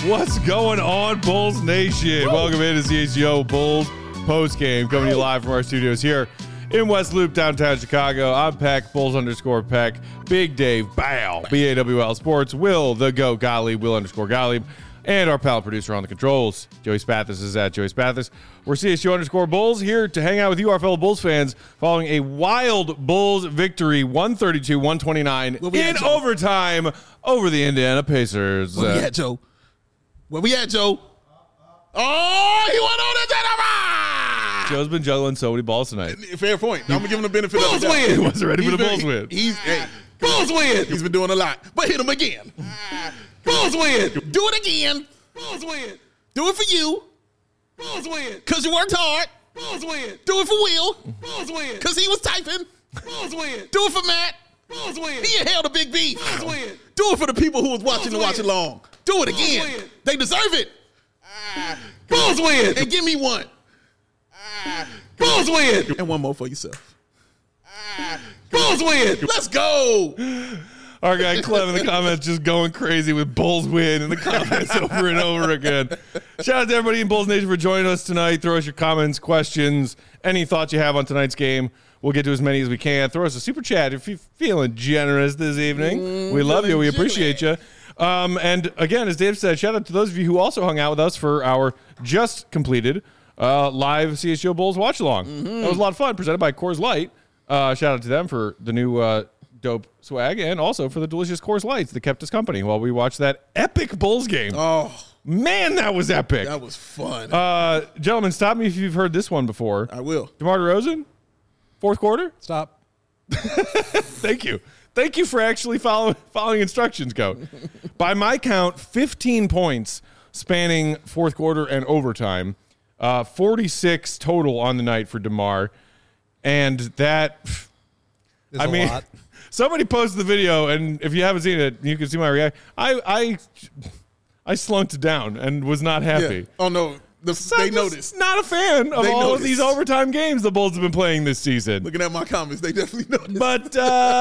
What's going on, Bulls Nation? Woo! Welcome into CHGO Bulls postgame, coming to you live from our studios here in West Loop, downtown Chicago. I'm Peck, Bulls_Peck, Big Dave, Bow, BAWL Sports, Will, the GOAT Gottlieb, Will_Gottlieb, and our pal producer on the controls, Joey Spathis, is at Joey Spathis. We're CHGO_Bulls here to hang out with you, our fellow Bulls fans, following a wild Bulls victory, 132-129 in overtime over the Indiana Pacers. Where we at, Joe? Where we at, Joe? Oh, he went on the Jennifer! Joe's been juggling so many balls tonight. Fair point. I'm going to give him the benefit of the doubt. He wasn't ready for the Bulls win. Bulls win. He's been doing a lot. But hit him again. Bulls win. Do it again. Bulls win. Do it for you. Bulls win. Because you worked hard. Bulls win. Do it for Will. Bulls win. Because he was typing. Bulls win. Do it for Matt. Bulls win. He held a big beat. Bulls win. Do it for the people who was watching to watch along. Do it again. They deserve it. Bulls win. And give me one. Bulls win. And one more for yourself. Bulls win. Let's go. Our guy Clem in the comments just going crazy with Bulls win in the comments over and over again. Shout out to everybody in Bulls Nation for joining us tonight. Throw us your comments, questions, any thoughts you have on tonight's game. We'll get to as many as we can. Throw us a super chat if you're feeling generous this evening. We love you. We appreciate you. And again, as Dave said, shout out to those of you who also hung out with us for our just completed live CHGO Bulls watch along. That was a lot of fun, presented by Coors Light. Shout out to them for the new dope swag and also for the delicious Coors Lights that kept us company while we watched that epic Bulls game. Oh, man, that was epic. That was fun. Gentlemen, stop me if you've heard this one before. I will. DeMar DeRozan, fourth quarter? Stop. Thank you. Thank you for actually following instructions, Goat. By my count, 15 points spanning fourth quarter and overtime. 46 total on the night for DeMar. And that, I mean, lot. Somebody posted the video, and if you haven't seen it, you can see my reaction. I slunked down and was not happy. Yeah. Oh, no. They noticed. Not a fan of all of these overtime games the Bulls have been playing this season. Looking at my comments, they definitely noticed. But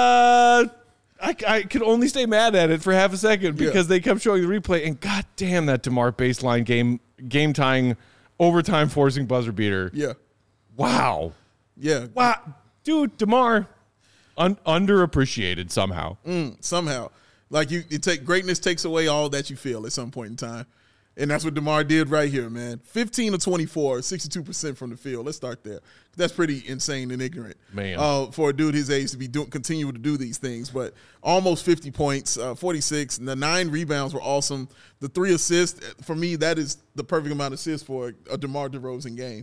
I could only stay mad at it for half a second because they kept showing the replay, and goddamn that DeMar baseline game tying, overtime forcing buzzer beater. Yeah. Wow. Yeah. Wow. Dude, DeMar, underappreciated somehow. Somehow. Like greatness takes away all that you feel at some point in time. And that's what DeMar did right here, man. 15 of 24, 62% from the field. Let's start there. That's pretty insane and ignorant, man. For a dude his age to be continue to do these things. But almost 50 points, 46. And the 9 rebounds were awesome. The 3 assists, for me, that is the perfect amount of assists for a DeMar DeRozan game.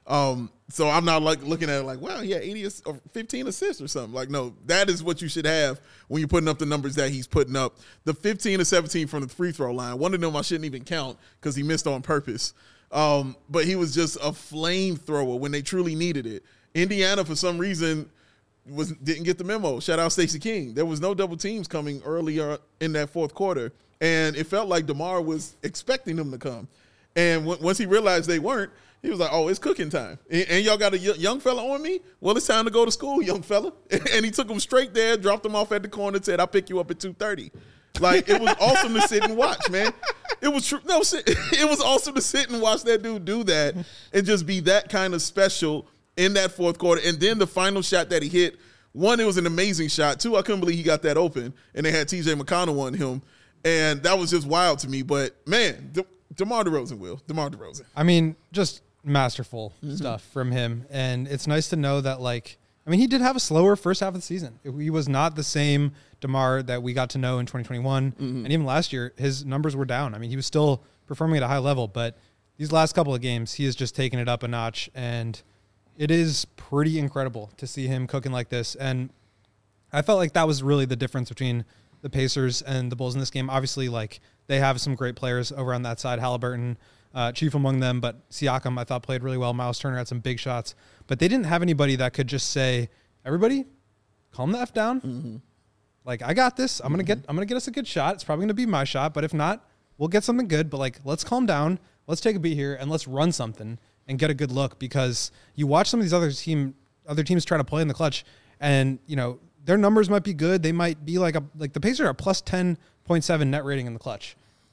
So I'm not like looking at it like, wow, yeah, 15 assists or something. Like, no, that is what you should have when you're putting up the numbers that he's putting up. The 15 to 17 from the free throw line. One of them I shouldn't even count because he missed on purpose. But he was just a flamethrower when they truly needed it. Indiana, for some reason, didn't get the memo. Shout out Stacey King. There was no double teams coming earlier in that fourth quarter. And it felt like DeMar was expecting them to come. And once he realized they weren't, he was like, oh, it's cooking time. And y'all got a young fella on me? Well, it's time to go to school, young fella. And he took him straight there, dropped him off at the corner, and said, I'll pick you up at 2:30. Like, it was awesome to sit and watch, man. It was true. No, it was awesome to sit and watch that dude do that and just be that kind of special in that fourth quarter. And then the final shot that he hit, one, it was an amazing shot. Two, I couldn't believe he got that open. And they had TJ McConnell on him. And that was just wild to me. But, man, DeMar DeRozan, DeMar DeRozan. I mean, just masterful stuff from him. And it's nice to know that, like, I mean, he did have a slower first half of the season. He was not the same DeMar that we got to know in 2021. And even last year, his numbers were down. I mean, he was still performing at a high level, but these last couple of games, he has just taken it up a notch. And it is pretty incredible to see him cooking like this. And I felt like that was really the difference between the Pacers and the Bulls in this game. Obviously, like, they have some great players over on that side, Halliburton, chief among them, but Siakam, I thought, played really well. Miles Turner had some big shots, but they didn't have anybody that could just say, everybody, calm the F down. Like, I got this. I'm going to get us a good shot. It's probably going to be my shot, but if not, we'll get something good. But, like, let's calm down. Let's take a beat here and let's run something and get a good look, because you watch some of these other teams try to play in the clutch, and, you know, their numbers might be good. They might be like the Pacers are a plus 10.7 net rating in the clutch.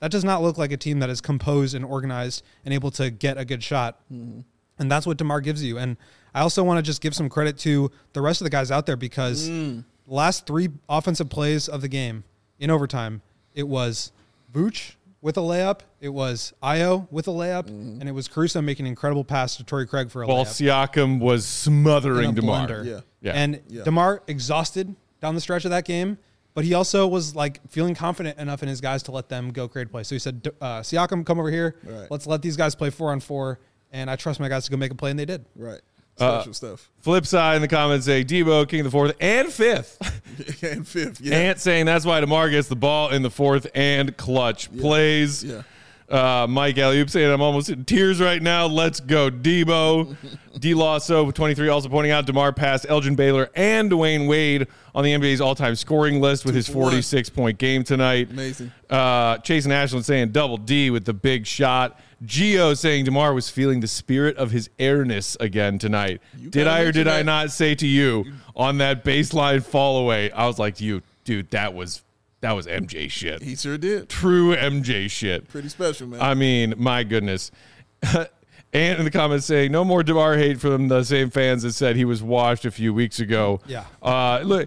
that does not look like a team that is composed and organized and able to get a good shot. Mm-hmm. And that's what DeMar gives you. And I also want to just give some credit to the rest of the guys out there because the last 3 offensive plays of the game in overtime, it was Vooch with a layup, it was Ayo with a layup, and it was Caruso making an incredible pass to Torrey Craig for a While layup. Siakam was smothering DeMar. Blender. Yeah. And DeMar exhausted down the stretch of that game, but he also was like feeling confident enough in his guys to let them go create play. So he said, Siakam, come over here. Right. Let's let these guys play 4-on-4, and I trust my guys to go make a play, and they did. Right. Special stuff. Flip side in the comments say Debo, king of the fourth and fifth. And fifth, yeah. Ant saying that's why DeMar gets the ball in the fourth and clutch plays. Yeah. Mike Alley-oop saying I'm almost in tears right now. Let's go, Debo. D-Lasso with 23 also pointing out DeMar passed Elgin Baylor and Dwayne Wade on the NBA's all-time scoring list with his 46-point game tonight. Amazing. Chase and Ashland saying double D with the big shot. Gio saying DeMar was feeling the spirit of his airness again tonight. Did I or did I not say to you on that baseline fall away? I was like to you, dude, that was MJ shit. He sure did. True MJ shit. Pretty special, man. I mean, my goodness. And in the comments saying, no more DeMar hate from the same fans that said he was washed a few weeks ago. Yeah. Look,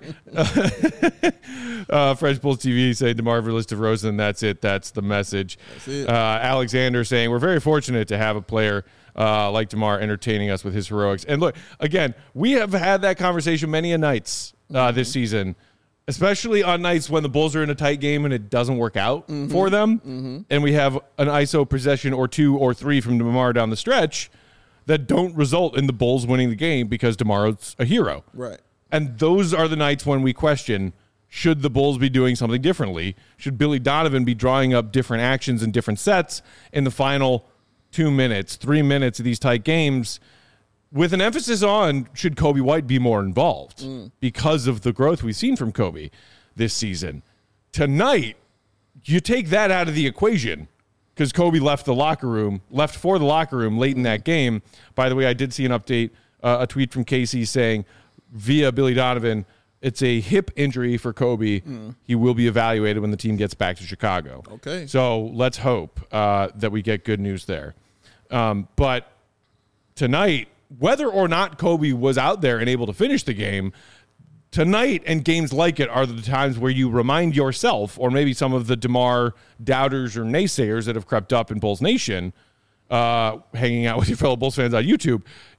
Fresh Bulls TV saying DeMar Verlis to Rosen. That's it. That's the message. That's it. Alexander saying, we're very fortunate to have a player like DeMar entertaining us with his heroics. And look, again, we have had that conversation many a nights this season, especially on nights when the Bulls are in a tight game and it doesn't work out for them. And we have an ISO possession or 2 or 3 from DeMar down the stretch that don't result in the Bulls winning the game because DeMar's a hero. Right. And those are the nights when we question, should the Bulls be doing something differently? Should Billy Donovan be drawing up different actions and different sets in the final 2 minutes, 3 minutes of these tight games? With an emphasis on, should Kobe White be more involved because of the growth we've seen from Kobe this season? Tonight, you take that out of the equation because Kobe left for the locker room late in that game. By the way, I did see an update, a tweet from Casey saying via Billy Donovan, it's a hip injury for Kobe. He will be evaluated when the team gets back to Chicago. Okay. So let's hope that we get good news there. But tonight, whether or not Kobe was out there and able to finish the game, tonight and games like it are the times where you remind yourself, or maybe some of the DeMar doubters or naysayers that have crept up in Bulls Nation, hanging out with your fellow Bulls fans on YouTube,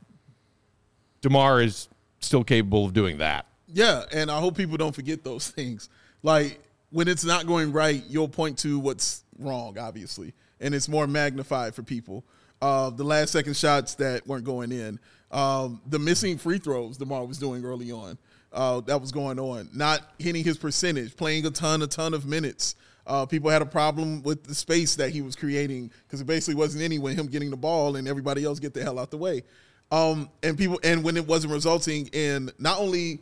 DeMar is still capable of doing that. Yeah, and I hope people don't forget those things. Like, when it's not going right, you'll point to what's wrong, obviously, and it's more magnified for people. The last second shots that weren't going in, the missing free throws DeMar was doing early on, that was going on, not hitting his percentage, playing a ton of minutes. People had a problem with the space that he was creating because it basically wasn't anywhere him getting the ball and everybody else get the hell out the way. And when it wasn't resulting in not only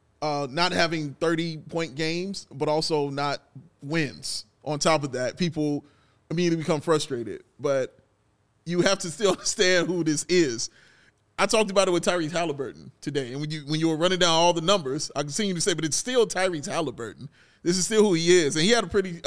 not having 30-point games, but also not wins. On top of that, people immediately become frustrated. But you have to still understand who this is. I talked about it with Tyrese Halliburton today, and when you were running down all the numbers, I continue to say, but it's still Tyrese Halliburton. This is still who he is, and he had a pretty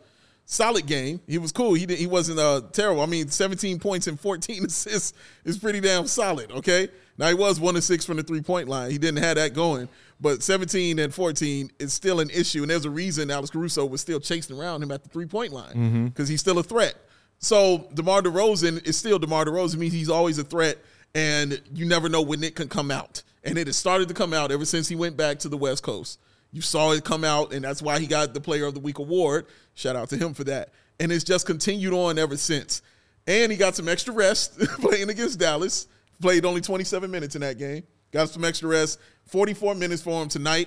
solid game. He was cool. He wasn't terrible. I mean, 17 points and 14 assists is pretty damn solid. Okay, now he was 1 of 6 from the 3-point line. He didn't have that going, but 17 and 14 is still an issue, and there's a reason Alex Caruso was still chasing around him at the 3-point line because he's still a threat. So DeMar DeRozan is still DeMar DeRozan. Means he's always a threat, and you never know when it can come out. And it has started to come out ever since he went back to the West Coast. You saw it come out, and that's why he got the Player of the Week award. Shout out to him for that. And it's just continued on ever since. And he got some extra rest playing against Dallas. Played only 27 minutes in that game. Got some extra rest. 44 minutes for him tonight.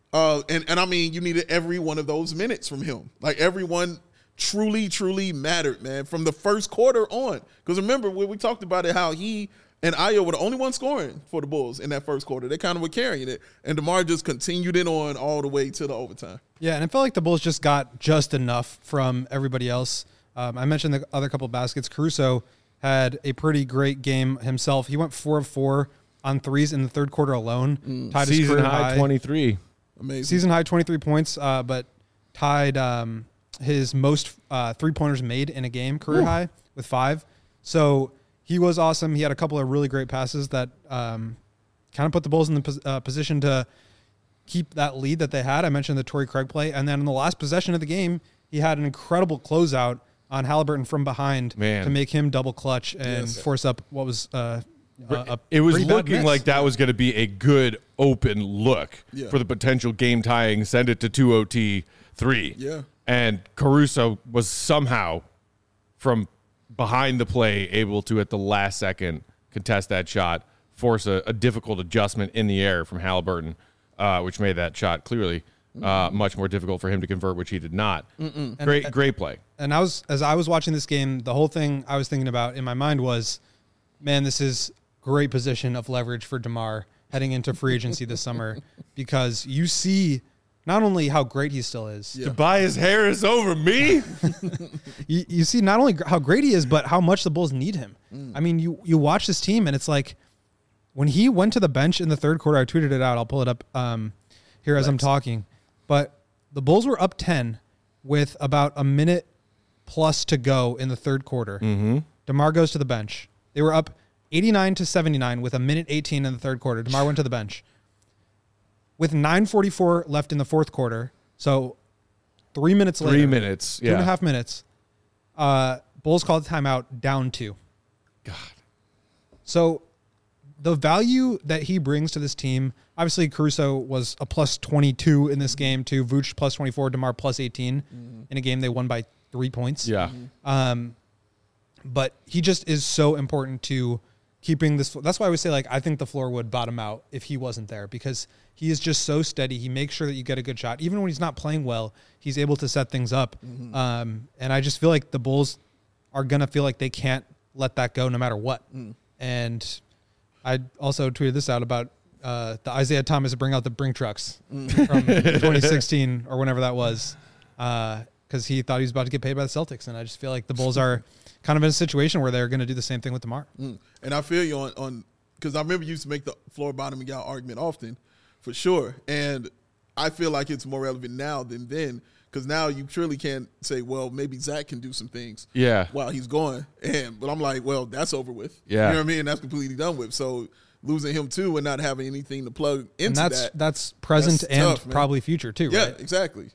And I mean, you needed every one of those minutes from him. Like, everyone truly mattered, man, from the first quarter on. Because remember, when we talked about it, how he and Ayo were the only ones scoring for the Bulls in that first quarter. They kind of were carrying it. And DeMar just continued it on all the way to the overtime. Yeah, and I felt like the Bulls just got just enough from everybody else. I mentioned the other couple of baskets. Caruso had a pretty great game himself. He went 4 of 4 on threes in the third quarter alone. Tied season his high 23. Amazing. Season high 23 points, but tied his most 3-pointers made in a game, career high with 5. So he was awesome. He had a couple of really great passes that kind of put the Bulls in the position to keep that lead that they had. I mentioned the Torrey Craig play. And then in the last possession of the game, he had an incredible closeout on Halliburton from behind to make him double clutch and force up what was it was looking like that was going to be a good open look for the potential game tying, send it to 2 OT 3. Yeah. And Caruso was somehow from behind the play able to, at the last second, contest that shot, force a difficult adjustment in the air from Halliburton, which made that shot clearly much more difficult for him to convert, which he did not. Great play. And as I was watching this game, the whole thing I was thinking about in my mind was, man, this is great position of leverage for DeMar heading into free agency this summer, because you see not only how great he still is. Tobias Harris over me. you see not only how great he is, but how much the Bulls need him. I mean, you watch this team, and it's like when he went to the bench in the third quarter, I tweeted it out. I'll pull it up here as I'm talking. But the Bulls were up 10 with about a minute plus to go in the third quarter. DeMar goes to the bench. They were up 89-79 with a minute 18 in the third quarter. DeMar went to the bench. With 9:44 left in the fourth quarter, so 3 minutes later. 3 minutes, yeah. 2.5 minutes. Bulls called timeout, down 2. God. So the value that he brings to this team, obviously Caruso was a plus 22 in this game too. Vooch plus 24, DeMar plus 18 in a game they won by 3 points. Yeah. But he just is so important to keeping this. That's why I would say, like, I think the floor would bottom out if he wasn't there, because he is just so steady. He makes sure that you get a good shot. Even when he's not playing well, he's able to set things up. And I just feel like the Bulls are going to feel like they can't let that go no matter what. And I also tweeted this out about the Isaiah Thomas bring out the Brink trucks from 2016 or whenever that was, because he thought he was about to get paid by the Celtics. And I just feel like the Bulls are kind of in a situation where they're going to do the same thing with DeMar. And I feel you on because I remember you used to make the floor bottoming out argument often, for sure. And I feel like it's more relevant now than then, because now you surely can't say, well, maybe Zach can do some things while he's gone. But I'm like, well, that's over with. Yeah. You know what I mean? That's completely done with. So losing him too and not having anything to plug into that's present that's and tough, probably future too, yeah, right? Exactly.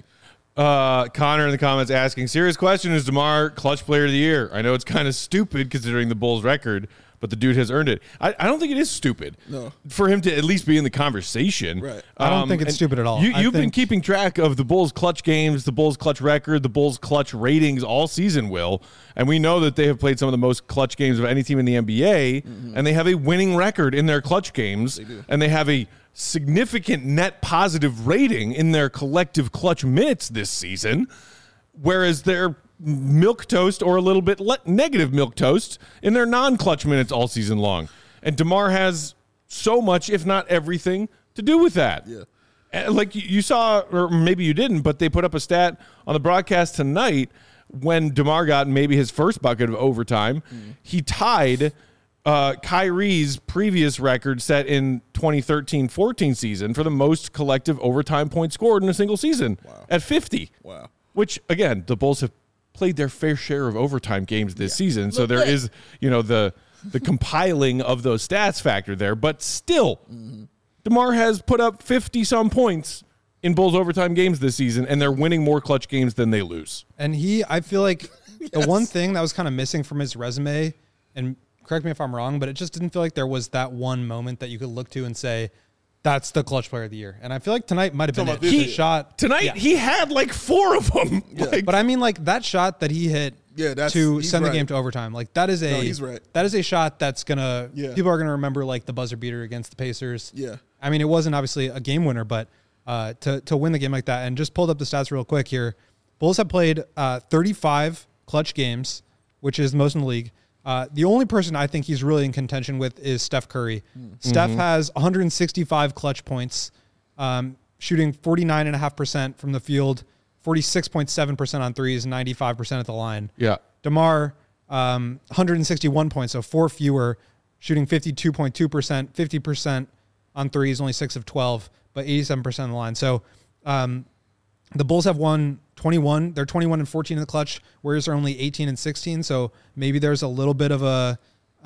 Connor in the comments asking, serious question, is DeMar clutch player of the year? I know it's kind of stupid considering the Bulls record, but the dude has earned it. I don't think it is stupid for him to at least be in the conversation. Right. I don't think it's stupid at all. You've been keeping track of the Bulls clutch games, the Bulls clutch record, the Bulls clutch ratings all season, Will. And we know that they have played some of the most clutch games of any team in the NBA, and they have a winning record in their clutch games, and they have a significant net positive rating in their collective clutch minutes this season, whereas they're milquetoast or a little bit negative milquetoast in their non-clutch minutes all season long. And DeMar has so much, if not everything, to do with that. Yeah. And like you saw, or maybe you didn't, but they put up a stat on the broadcast tonight when DeMar got maybe his first bucket of overtime. He tied Kyrie's previous record set in 2013-14 season for the most collective overtime points scored in a single season at 50. Wow. Which, again, the Bulls have played their fair share of overtime games this season. So there is, the compiling of those stats factor there. But still, DeMar has put up 50-some points in Bulls overtime games this season, and they're winning more clutch games than they lose. And I feel like the one thing that was kind of missing from his resume, and correct me if I'm wrong, but it just didn't feel like there was that one moment that you could look to and say, that's the clutch player of the year. And I feel like tonight might have been it. He had like 4 of them. But I mean, like, that shot that he hit to send the game to overtime, like, that is that is a shot that's gonna people are gonna remember, like the buzzer beater against the Pacers. I mean, it wasn't obviously a game winner, but to win the game like that. And just pulled up the stats real quick here. Bulls have played 35 clutch games, which is most in the league. The only person I think he's really in contention with is Steph Curry. Steph has 165 clutch points, shooting 49.5% from the field, 46.7% on threes, 95% at the line. Yeah. DeMar, 161 points, so 4 fewer, shooting 52.2%, 50% on threes, only 6 of 12, but 87% on the line. So The Bulls have won 21. They're 21-14 in the clutch. Warriors are only 18-16. So maybe there's a little bit of a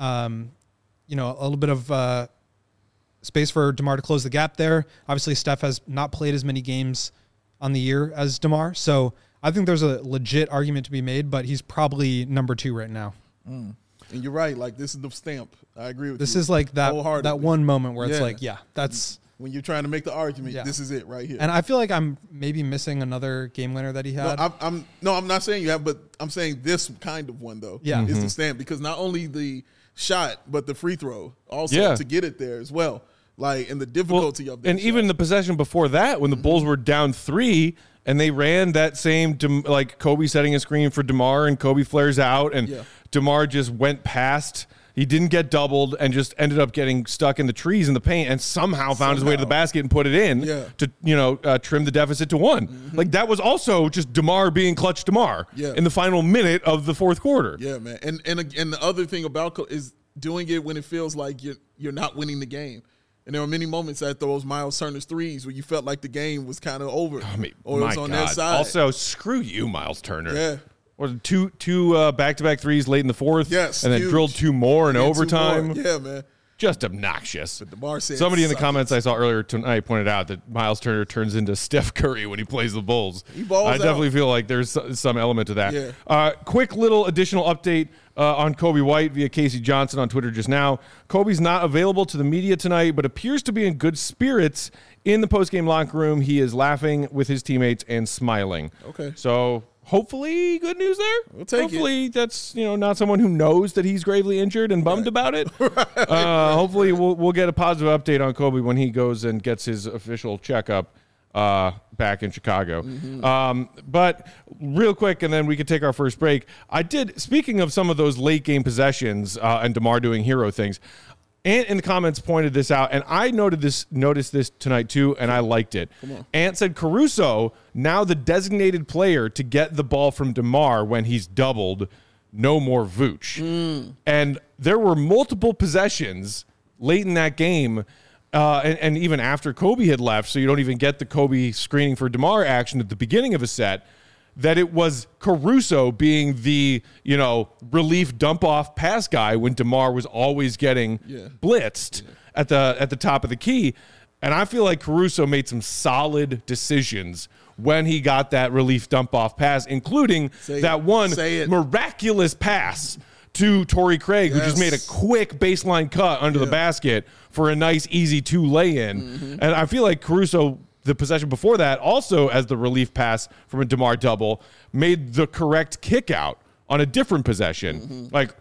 little bit of space for DeMar to close the gap there. Obviously, Steph has not played as many games on the year as DeMar. So I think there's a legit argument to be made, but he's probably number 2 right now. And you're right. Like, this is the stamp. I agree with you. This is like that one moment where it's like, that's when you're trying to make the argument. This is it right here. And I feel like I'm maybe missing another game winner that he had. I'm not saying you have, but I'm saying this kind of one though. Yeah, is the stamp, because not only the shot but the free throw also to get it there as well. Like, and the difficulty of that. And even the possession before that, when the Bulls were down 3. And they ran that same, like Kobe setting a screen for DeMar, and Kobe flares out, and DeMar just went past. He didn't get doubled and just ended up getting stuck in the trees in the paint, and somehow found his way to the basket and put it in to trim the deficit to 1. Like, that was also just DeMar being clutch DeMar in the final minute of the fourth quarter. Yeah, man. And the other thing about is doing it when it feels like you're not winning the game. And there were many moments at those Miles Turner's threes where you felt like the game was kind of over, or it was on their side. Also, screw you, Miles Turner. Yeah. Or two back-to-back threes late in the fourth, yes, and then drilled 2 more in overtime. Yeah, man. Just obnoxious. But DeMar said somebody in the comments I saw earlier tonight pointed out that Miles Turner turns into Steph Curry when he plays the Bulls. He balls I definitely feel like there's some element to that. Yeah. Quick little additional update on Kobe White via Casey Johnson on Twitter just now. Kobe's not available to the media tonight, but appears to be in good spirits in the postgame locker room. He is laughing with his teammates and smiling. Okay. So hopefully good news there. We'll take hopefully that's not someone who knows that he's gravely injured and bummed about it. Hopefully we'll get a positive update on Kobe when he goes and gets his official checkup back in Chicago. But real quick, and then we could take our first break. Speaking of some of those late game possessions and DeMar doing hero things, Ant in the comments pointed this out, and I noticed this tonight too, and I liked it. Ant said Caruso, now the designated player to get the ball from DeMar when he's doubled, no more Vooch. And there were multiple possessions late in that game, and even after Kobe had left, so you don't even get the Kobe screening for DeMar action at the beginning of a set, that it was Caruso being the, relief dump-off pass guy when DeMar was always getting blitzed at the top of the key. And I feel like Caruso made some solid decisions when he got that relief dump-off pass, including one miraculous pass to Torrey Craig, who just made a quick baseline cut under the basket for a nice, easy 2 lay-in. And I feel like Caruso, the possession before that, also as the relief pass from a DeMar double, made the correct kick out on a different possession. Like,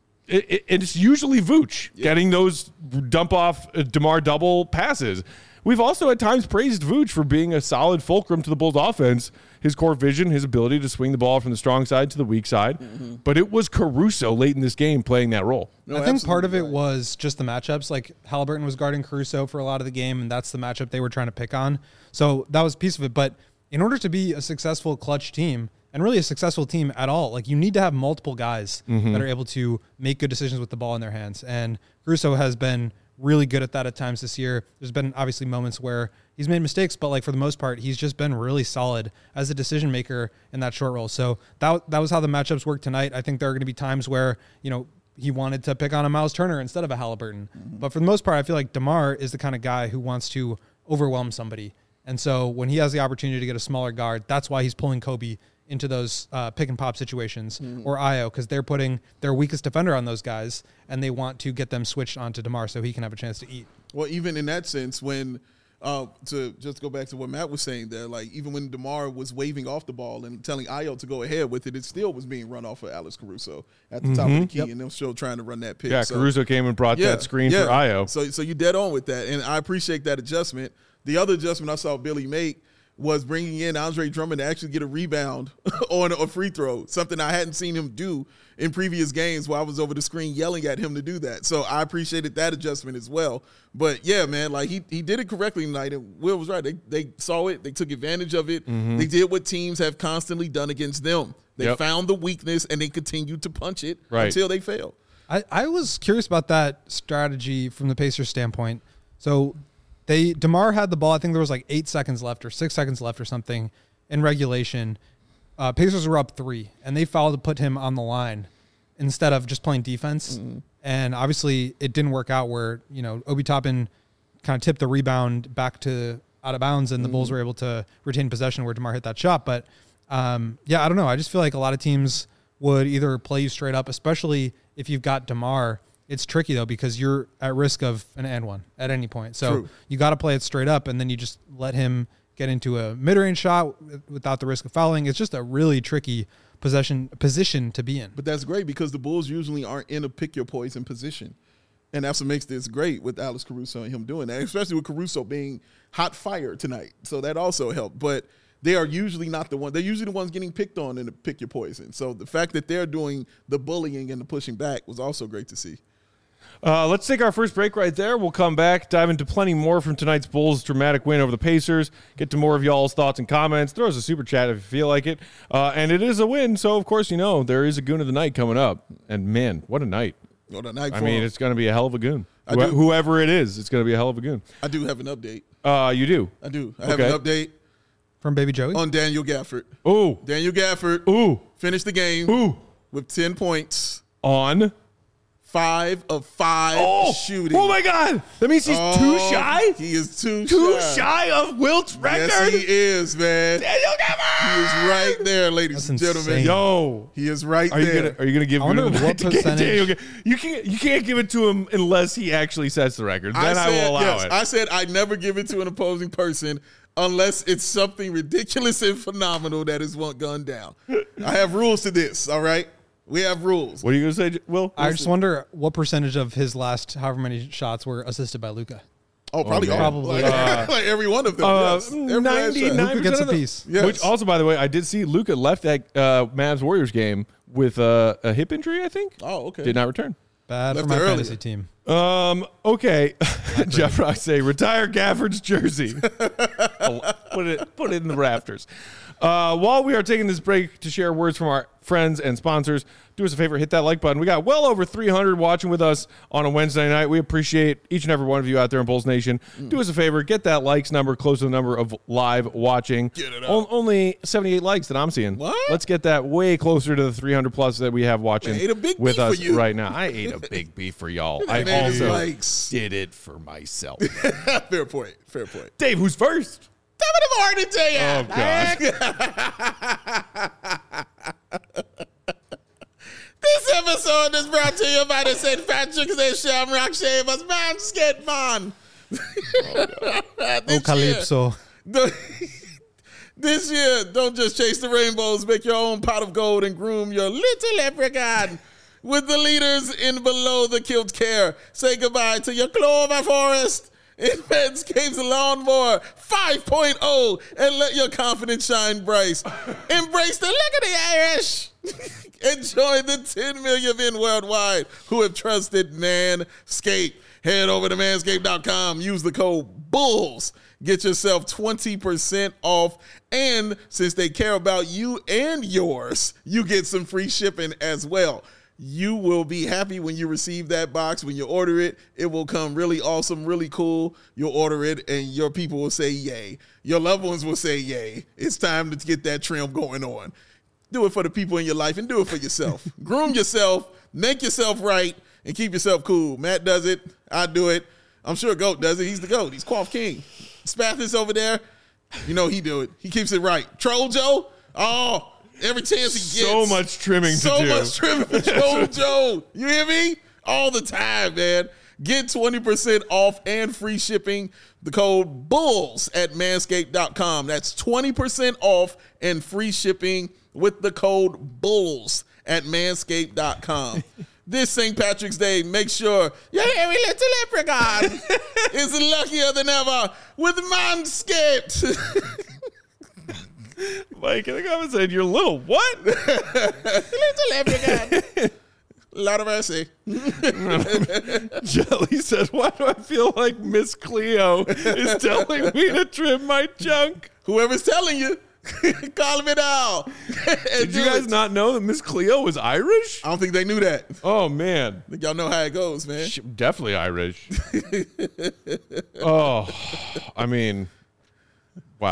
it's usually Vooch getting those dump off DeMar double passes. We've also at times praised Vooch for being a solid fulcrum to the Bulls offense, his core vision, his ability to swing the ball from the strong side to the weak side. But it was Caruso late in this game playing that role. I think part of it was just the matchups. Like, Halliburton was guarding Caruso for a lot of the game, and that's the matchup they were trying to pick on. So that was a piece of it. But in order to be a successful clutch team, and really a successful team at all, like, you need to have multiple guys that are able to make good decisions with the ball in their hands. And Caruso has been really good at that at times this year. There's been obviously moments where he's made mistakes, but like for the most part, he's just been really solid as a decision maker in that short roll. So that was how the matchups worked tonight. I think there are going to be times where, he wanted to pick on a Miles Turner instead of a Halliburton. But for the most part, I feel like DeMar is the kind of guy who wants to overwhelm somebody. And so when he has the opportunity to get a smaller guard, that's why he's pulling Kobe into those pick and pop situations or Ayo, because they're putting their weakest defender on those guys, and they want to get them switched onto DeMar so he can have a chance to eat. Well, even in that sense, when to just go back to what Matt was saying there, like even when DeMar was waving off the ball and telling Ayo to go ahead with it, it still was being run off of Alex Caruso at the top of the key, and they're still trying to run that pick. Yeah, so Caruso came and brought that screen for Ayo. So you dead on with that, and I appreciate that adjustment. The other adjustment I saw Billy make was bringing in Andre Drummond to actually get a rebound on a free throw, something I hadn't seen him do in previous games while I was over the screen yelling at him to do that. So I appreciated that adjustment as well. But, yeah, man, like he did it correctly tonight, and Will was right. They saw it. They took advantage of it. They did what teams have constantly done against them. They found the weakness, and they continued to punch it until they failed. I was curious about that strategy from the Pacers standpoint. So DeMar had the ball. I think there was like 8 seconds left or 6 seconds left or something. in regulation, Pacers were up 3, and they fouled to put him on the line instead of just playing defense. And obviously, it didn't work out where, Obi Toppin kind of tipped the rebound back to out of bounds, and the Bulls were able to retain possession where DeMar hit that shot. But, I don't know. I just feel like a lot of teams would either play you straight up, especially if you've got DeMar. It's tricky, though, because you're at risk of an and one at any point. So you got to play it straight up, and then you just let him get into a mid-range shot without the risk of fouling. It's just a really tricky position to be in. But that's great because the Bulls usually aren't in a pick-your-poison position. And that's what makes this great with Alex Caruso and him doing that, especially with Caruso being hot fire tonight. So that also helped. But they are usually not the one. They're usually the ones getting picked on in the pick-your-poison. So the fact that they're doing the bullying and the pushing back was also great to see. Let's take our first break right there. We'll come back, dive into plenty more from tonight's Bulls' dramatic win over the Pacers, get to more of y'all's thoughts and comments. Throw us a super chat if you feel like it. And it is a win, so of course, there is a goon of the night coming up. And man, what a night. What a night. It's going to be a hell of a goon. Whoever it is, it's going to be a hell of a goon. I do have an update. You do? I do. I have an update. From Baby Joey? On Daniel Gafford. Ooh. Daniel Gafford. Ooh. Finished the game. Ooh. With 10 points. On 5 of 5 shooting. Oh my God! That means he's too shy. He is too shy of Wilt's record. Yes, he is, man. Daniel Gafford. He is right there, ladies That's and gentlemen. insane. Yo, he is right are there. Are you gonna give? I wonder him what percentage. You can't give it to him unless he actually sets the record. Then I will allow it. I said I'd never give it to an opposing person unless it's something ridiculous and phenomenal that is gone down. I have rules to this. All right. We have rules. What are you going to say, Will? I just wonder what percentage of his last however many shots were assisted by Luka. Oh, probably all. Probably. Like every one of them. Yes. 99% Luka gets a piece. Yes. Which also, by the way, I did see Luka left that Mavs Warriors game with a hip injury, I think. Oh, okay. Did not return. Bad Left for my earlier. fantasy team. Okay. Jeff Rock say retire Gafford's jersey. Put it in the rafters. While we are taking this break to share words from our friends and sponsors, do us a favor, hit that like button. We got well over 300 watching with us on a Wednesday night. We appreciate each and every one of you out there in Bulls Nation. Do us a favor, get that likes number close to the number of live watching. Get it up. Only 78 likes that I'm seeing. What? Let's get that way closer to the 300 plus that we have watching I ate a big with beef us for you. right now. I ate a big beef for y'all. I Man, also likes. did it for myself. Fair point. Fair point. Dave, who's first? David Martin to you. Oh, God. This episode is brought to you by the St. Patrick's Day Shamrock Shavers Manscaped Man. Oh, Calypso. This year, don't just chase the rainbows. Make your own pot of gold and groom your little leprechaun with the leaders in below the kilt care. Say goodbye to your clover forest in Manscaped's Lawnmower 5.0 and let your confidence shine bright. Embrace the look of the Irish. Enjoy the 10 million men worldwide who have trusted Manscaped. Head over to manscaped.com. Use the code BULLS. Get yourself 20% off. And since they care about you and yours, you get some free shipping as well. You will be happy when you receive that box. When you order it, it will come really awesome, really cool. You'll order it, and your people will say yay. Your loved ones will say yay. It's time to get that trim going on. Do it for the people in your life, and do it for yourself. Groom yourself, make yourself right, and keep yourself cool. Matt does it. I do it. I'm sure GOAT does it. He's the GOAT. He's Quaff King. Spathis over there, he do it. He keeps it right. Troll Joe, every chance he gets. So much trimming to do. So much trimming for Troll Joe. You hear me? All the time, man. Get 20% off and free shipping. The code BULLS at manscaped.com. That's 20% off and free shipping with the code BULLS at manscaped.com. This St. Patrick's Day, make sure your hairy little leprechaun is luckier than ever with Manscaped. Mike in the comments said, "You're little what?" Little leprechaun. Lot of mercy. Jelly says, "Why do I feel like Miss Cleo is telling me to trim my junk?" Whoever's telling you, call me now. Did you guys not know that Miss Cleo was Irish? I don't think they knew that. Oh, man. I think y'all know how it goes, man. Definitely Irish. Oh, I mean, wow.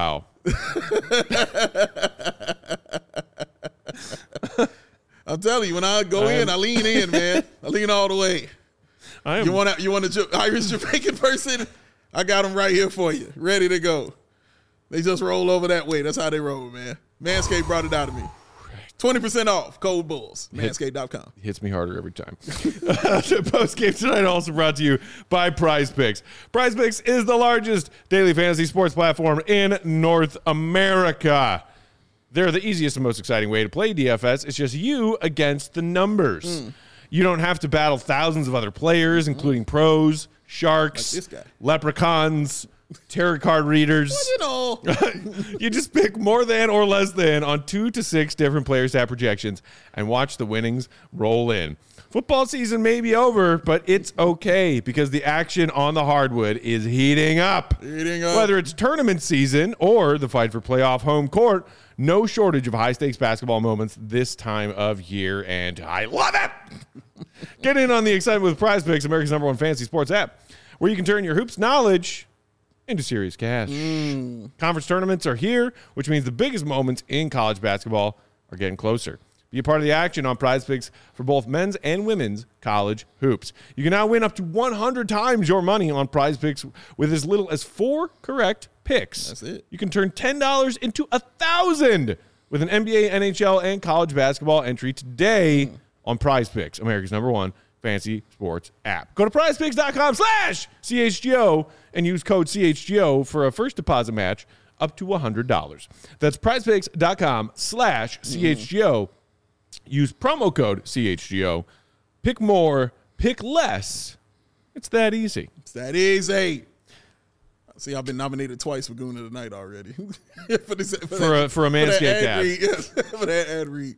I'm telling you, when I go in, I lean in, man. I lean all the way. You want a Irish Jamaican person? I got them right here for you, ready to go. They just roll over that way. That's how they roll, man. Manscaped brought it out of me. 20% off, code Bulls, manscaped.com. Hits me harder every time. The post-game tonight also brought to you by Prize Picks. Prize Picks is the largest daily fantasy sports platform in North America. They're the easiest and most exciting way to play DFS. It's just you against the numbers. You don't have to battle thousands of other players, including pros, sharks, like this guy. Leprechauns, tarot card readers. Well, you know. You just pick more than or less than on 2 to 6 different player stat projections and watch the winnings roll in. Football season may be over, but it's okay because the action on the hardwood is heating up. Whether it's tournament season or the fight for playoff home court, no shortage of high-stakes basketball moments this time of year, and I love it! Get in on the excitement with Prize Picks, America's #1 fantasy sports app, where you can turn your hoops knowledge into serious cash. Conference tournaments are here, which means the biggest moments in college basketball are getting closer. Be a part of the action on Prize Picks for both men's and women's college hoops. You can now win up to 100 times your money on Prize Picks with as little as 4 correct picks. That's it. You can turn $10 into $1,000 with an NBA, NHL, and college basketball entry today on Prize Picks, America's #1 fantasy sports app. Go to prizepicks.com/CHGO and use code CHGO for a first deposit match up to $100. That's prizepicks.com/CHGO. Use promo code CHGO. Pick more, pick less. It's that easy. It's that easy. See, I've been nominated twice for Goon of the Night already. for a Manscaped ad read. Yes, for that ad read.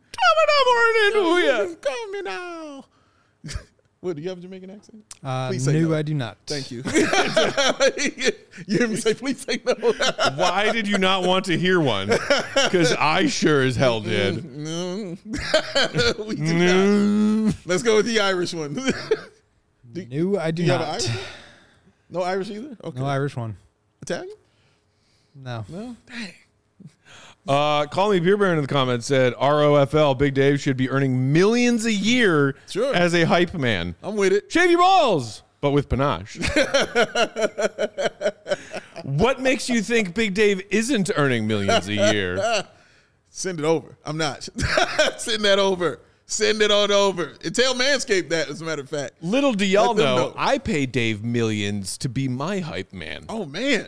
Coming now. What, do you have a Jamaican accent? Please say no. I do not. Thank you. You hear me say, please say no. Why did you not want to hear one? Because I sure as hell did. No. We do not. Let's go with the Irish one. No, I do not. Irish? No Irish either? Okay. No Irish one. Italian? No. No? Dang. Call Me Beer Baron in the comments said ROFL, Big Dave should be earning millions a year as a hype man. I'm with it. Shave your balls, but with panache. What makes you think Big Dave isn't earning millions a year? Send it over. I'm not. Send that over. Send it on over. And tell Manscaped that, as a matter of fact. Little do y'all know, I pay Dave millions to be my hype man. Oh, man.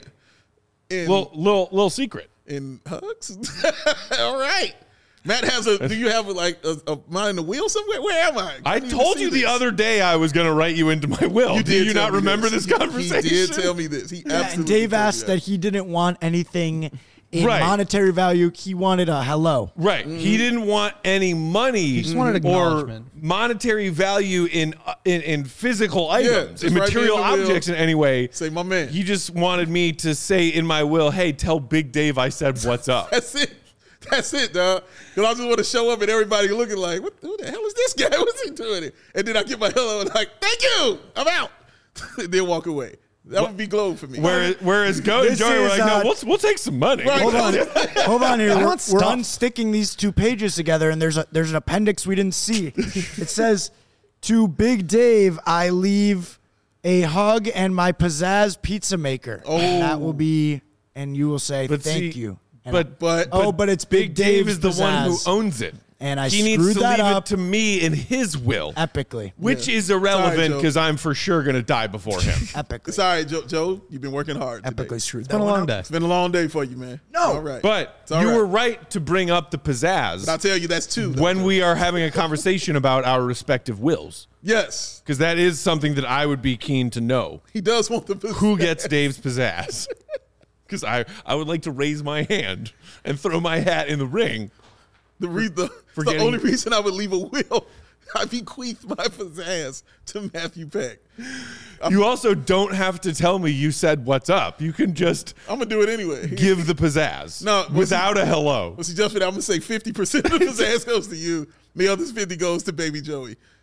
Little secret. In hugs? All right. Matt has do you have a mind in the wheel somewhere? Where am I? I told you the other day I was going to write you into my will. Do you not remember this conversation? He did tell me this. He absolutely and Dave asked that he didn't want anything in monetary value. He wanted a hello. Right. He didn't want any money. He just wanted acknowledgement. Or monetary value in physical items, in material objects in any way. Say, my man. He just wanted me to say in my will, hey, tell Big Dave I said what's up. That's it. That's it, dog. Because I just want to show up and everybody looking like, who the hell is this guy? What's he doing? And then I get my hello and like, thank you. I'm out. And then walk away. That would be glow for me. Whereas Go and Joey were like, no, we'll take some money. Right. Hold on here. We're unsticking these 2 pages together, and there's an appendix we didn't see. It says, to Big Dave, I leave a hug and my pizzazz pizza maker. Oh. And that will be, and you will say, thank you. And But it's Big Dave is the pizzazz. one who owns it. And I he needs screwed to that leave up it to me in his will. Epically. Which is irrelevant Joe. because I'm for sure going to die before him. Epically. it's all right, Joe. You've been working hard today. Epically screwed It's that been a one long up. day. It's been a long day for you, man. No. All right. But all you right. were right to bring up the pizzazz But I'll tell you, that's 2. Though, when we are having a conversation about our respective wills. Yes. Because that is something that I would be keen to know. He does want the Who gets Dave's pizzazz? Because I would like to raise my hand and throw my hat in the ring. The only reason I would leave a will, I bequeath my pizzazz to Matthew Peck. You also don't have to tell me you said what's up. You can just I'm going to do it anyway. give the pizzazz without a hello. Well, see, Justin, I'm going to say 50% of the pizzazz goes to you. The other 50 goes to Baby Joey.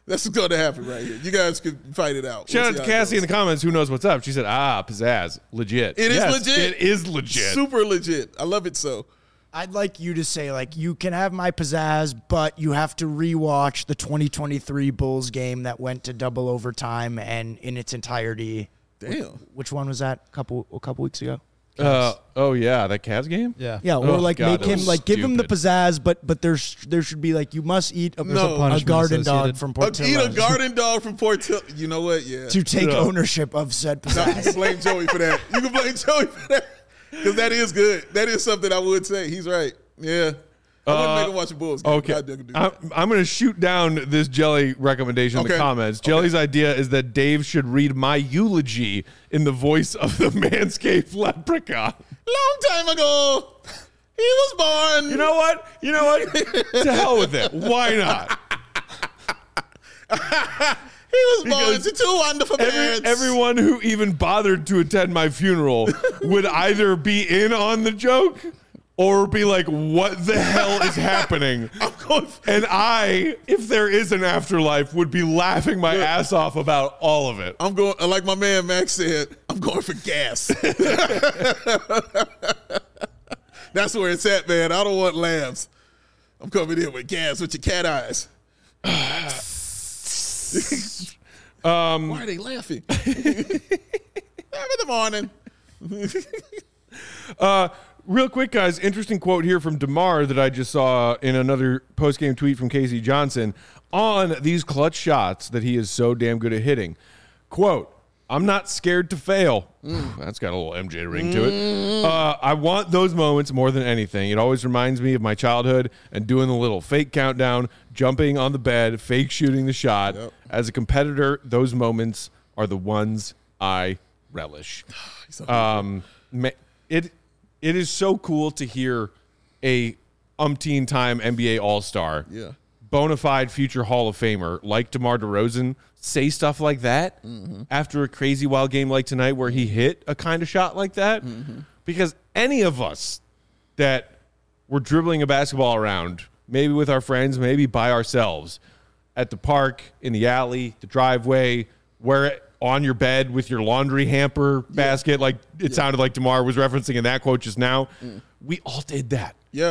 That's what's going to happen right here. You guys could fight it out. Shout out to Cassie in the comments. Who knows what's up? She said, pizzazz. Legit. It is legit. It is legit. Super legit. I love it so. I'd like you to say, like, you can have my pizzazz, but you have to rewatch the 2023 Bulls game that went to double overtime and in its entirety. Damn. Which one was that? A couple weeks ago. That Cavs game? Yeah. Yeah, or like God, make that him was like give him the stupid. pizzazz, but there should be like you must eat a punishment garden dog associated. from Eat Portillo's a garden dog from Portillo. You know what? Yeah. to take Yeah. ownership of said No, you pizzazz. can blame Joey for that. You can blame Joey for that. Because that is good. That is something I would say. He's right. Yeah. I wouldn't make him watch a Bulls game. Okay. God, they could do that. I'm going to shoot down this Jelly recommendation in the Okay. comments. Jelly's idea is that Dave should read my eulogy in the voice of the Manscaped leprechaun. Long time ago, he was born. You know what? To hell with it. Why not? He was born Because to two wonderful parents. Everyone who even bothered to attend my funeral would either be in on the joke or be like, what the hell is happening? And I, if there is an afterlife, would be laughing my ass off about all of it. I'm going, like my man Max said, I'm going for gas. That's where it's at, man. I don't want laughs. I'm coming in with gas with your cat eyes. Why are they laughing? In the morning. Real quick, guys, interesting quote here from DeMar that I just saw in another post-game tweet from Casey Johnson on these clutch shots that he is so damn good at hitting. Quote, I'm not scared to fail. That's got a little MJ ring to it. I want those moments more than anything. It always reminds me of my childhood and doing the little fake countdown, jumping on the bed, fake shooting the shot. Yep. As a competitor, those moments are the ones I relish. It is so cool to hear a umpteen-time NBA All-Star, Yeah. bona fide future Hall of Famer like DeMar DeRozan say stuff like that after a crazy wild game like tonight where he hit a kind of shot like that. Because any of us that were dribbling a basketball around, maybe with our friends, maybe by ourselves, at the park, in the alley, the driveway, where on your bed with your laundry hamper basket, like it sounded like DeMar was referencing in that quote just now. We all did that. Yeah.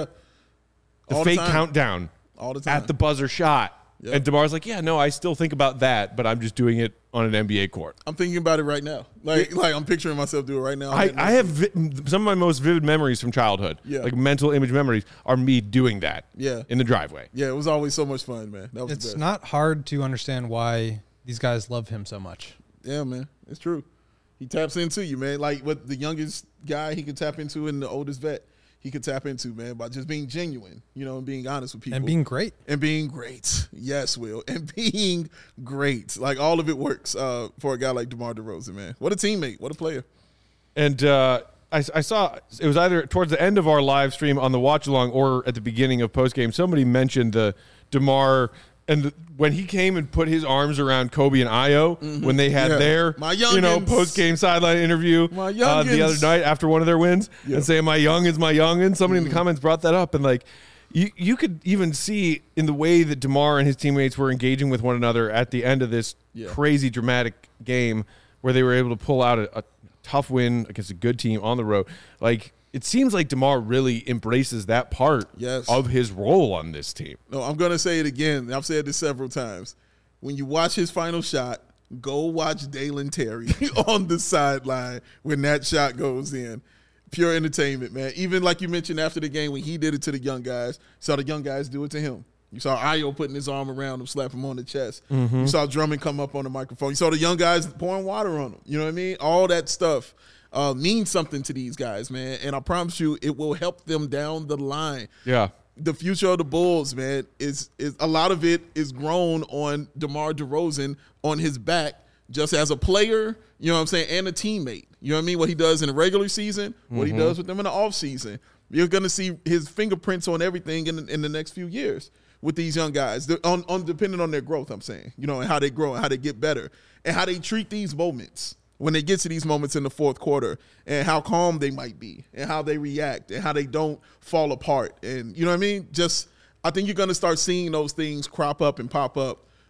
The All fake time. countdown All the time. at the buzzer shot. Yep. And DeMar's like, yeah, no, I still think about that, but I'm just doing it on an NBA court. I'm thinking about it right now. Like I'm picturing myself do it right now. I have some of my most vivid memories from childhood, Yeah. like mental image memories, are me doing that Yeah. in the driveway. Yeah, it was always so much fun, man. That was the It's best. not hard to understand why these guys love him so much. Yeah, man. It's true. He taps into you, man. Like what the youngest guy he could tap into and the oldest vet he could tap into, man, by just being genuine, and being honest with people. And being great. And being great. Yes, Will. And being great. Like all of it works for a guy like DeMar DeRozan, man. What a teammate. What a player. And I saw it was either towards the end of our live stream on the watch along or at the beginning of post game. Somebody mentioned the DeMar and when he came and put his arms around Kobe and Ayo when they had their My youngins. post game sideline interview My the youngins. other night after one of their wins and saying my young is my youngin. Somebody in the comments brought that up and like you could even see in the way that DeMar and his teammates were engaging with one another at the end of this crazy dramatic game where they were able to pull out a tough win against a good team on the road. Like it seems like DeMar really embraces that part of his role on this team. No, I'm going to say it again. I've said this several times. When you watch his final shot, go watch Dalen Terry on the sideline when that shot goes in. Pure entertainment, man. Even like you mentioned after the game when he did it to the young guys, saw the young guys do it to him. You saw Ayo putting his arm around him, slap him on the chest. You saw Drummond come up on the microphone. You saw the young guys pouring water on him. You know what I mean? All that stuff means something to these guys, man. And I promise you, it will help them down the line. Yeah. The future of the Bulls, man, is a lot of it is grown on DeMar DeRozan on his back, just as a player, you know what I'm saying, and a teammate. You know what I mean? What he does in the regular season, what he does with them in the offseason. You're going to see his fingerprints on everything in the next few years with these young guys, depending on their growth, I'm saying, and how they grow and how they get better and how they treat these moments when they get to these moments in the fourth quarter and how calm they might be and how they react and how they don't fall apart. And you know what I mean? I think you're going to start seeing those things crop up and pop up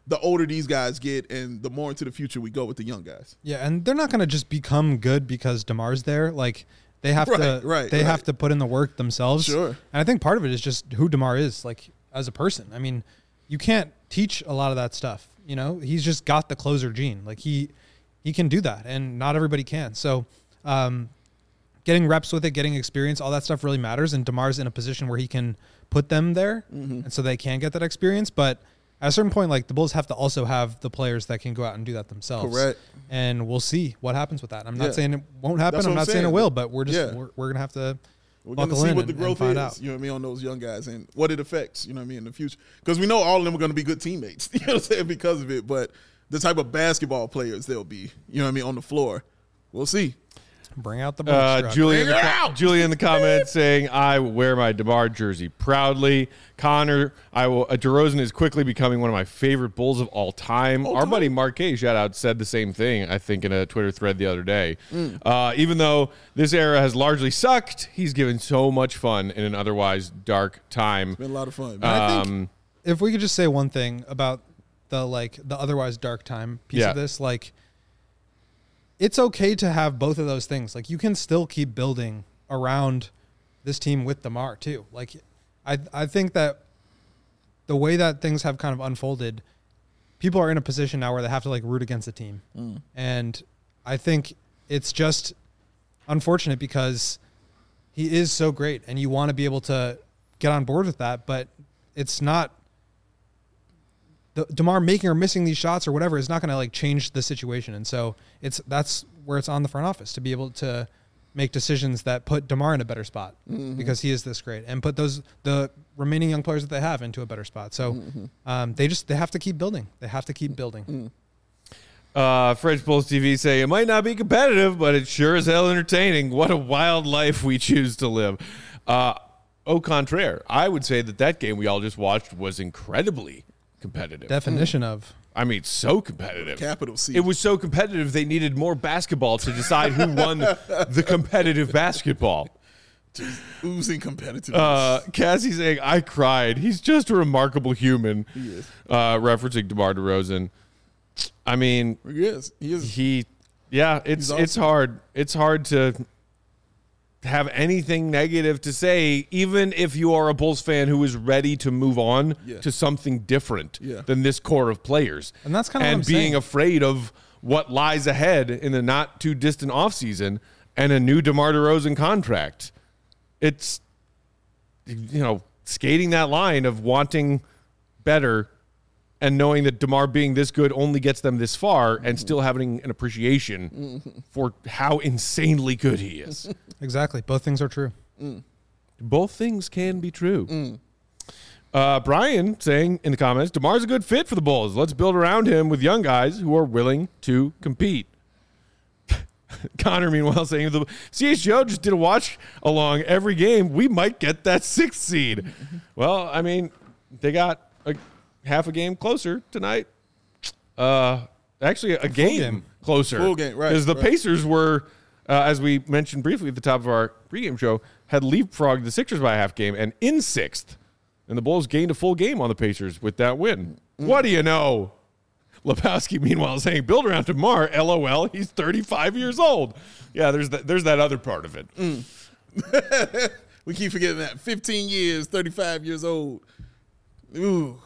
the older these guys get and the more into the future we go with the young guys. Yeah, and they're not going to just become good because DeMar's there. Like they have to have to put in the work themselves. Sure. And I think part of it is just who DeMar is, like as a person. I mean, you can't teach a lot of that stuff. You know, he's just got the closer gene. Like he can do that, and not everybody can. So, getting reps with it, getting experience, all that stuff really matters. And DeMar's in a position where he can put them there, and so they can get that experience. But at a certain point, like the Bulls have to also have the players that can go out and do that themselves. Correct. And we'll see what happens with that. I'm not saying it won't happen. I'm not saying it will, but we're gonna have to. We're going to see what the growth is, you know what I mean, on those young guys and what it affects, you know what I mean, in the future. Because we know all of them are going to be good teammates, you know what I'm saying, because of it. But the type of basketball players they'll be, you know what I mean, on the floor, we'll see. Bring out the Julie in the comments saying, I wear my DeMar jersey proudly. Connor, DeRozan is quickly becoming one of my favorite Bulls of all time. Our buddy Marquez, shout out, said the same thing, I think, in a Twitter thread the other day. Even though this era has largely sucked, he's given so much fun in an otherwise dark time. It's been a lot of fun. I think if we could just say one thing about the otherwise dark time piece of this, like, it's okay to have both of those things. Like, you can still keep building around this team with DeMar too. Like, I think that the way that things have kind of unfolded, people are in a position now where they have to like root against the team. And I think it's just unfortunate because he is so great and you want to be able to get on board with that, but it's not DeMar making or missing these shots or whatever is not going to like change the situation. And so that's where it's on the front office to be able to make decisions that put DeMar in a better spot because he is this great and put the remaining young players that they have into a better spot. So they have to keep building. They have to keep building. French Bulls TV say, it might not be competitive, but it sure is hell entertaining. What a wild life we choose to live. Au contraire, I would say that game we all just watched was incredibly competitive. Definition of. I mean, so competitive. Capital C. It was so competitive, they needed more basketball to decide who won the competitive basketball. Just oozing competitiveness. Cassie saying, I cried. He's just a remarkable human. He is. Referencing DeMar DeRozan. I mean, He is. It's hard. It's hard to have anything negative to say, even if you are a Bulls fan who is ready to move on to something different than this core of players. And that's kind of and what I'm being saying. Afraid of what lies ahead in the not too distant offseason and a new DeMar DeRozan contract. It's, skating that line of wanting better and knowing that DeMar being this good only gets them this far and still having an appreciation for how insanely good he is. Exactly. Both things are true. Both things can be true. Brian saying in the comments, DeMar's a good fit for the Bulls. Let's build around him with young guys who are willing to compete. Connor, meanwhile, saying, the CHGO just did a watch along every game. We might get that 6th seed. Well, I mean, they got half a game closer tonight. Actually, a game closer. Full game, right. Because the Pacers were, as we mentioned briefly at the top of our pregame show, had leapfrogged the Sixers by a half game and in 6th. And the Bulls gained a full game on the Pacers with that win. What do you know? Lepowski, meanwhile, saying, build around DeMar, LOL, he's 35 years old. Yeah, there's that other part of it. We keep forgetting that. 15 years, 35 years old. Ooh.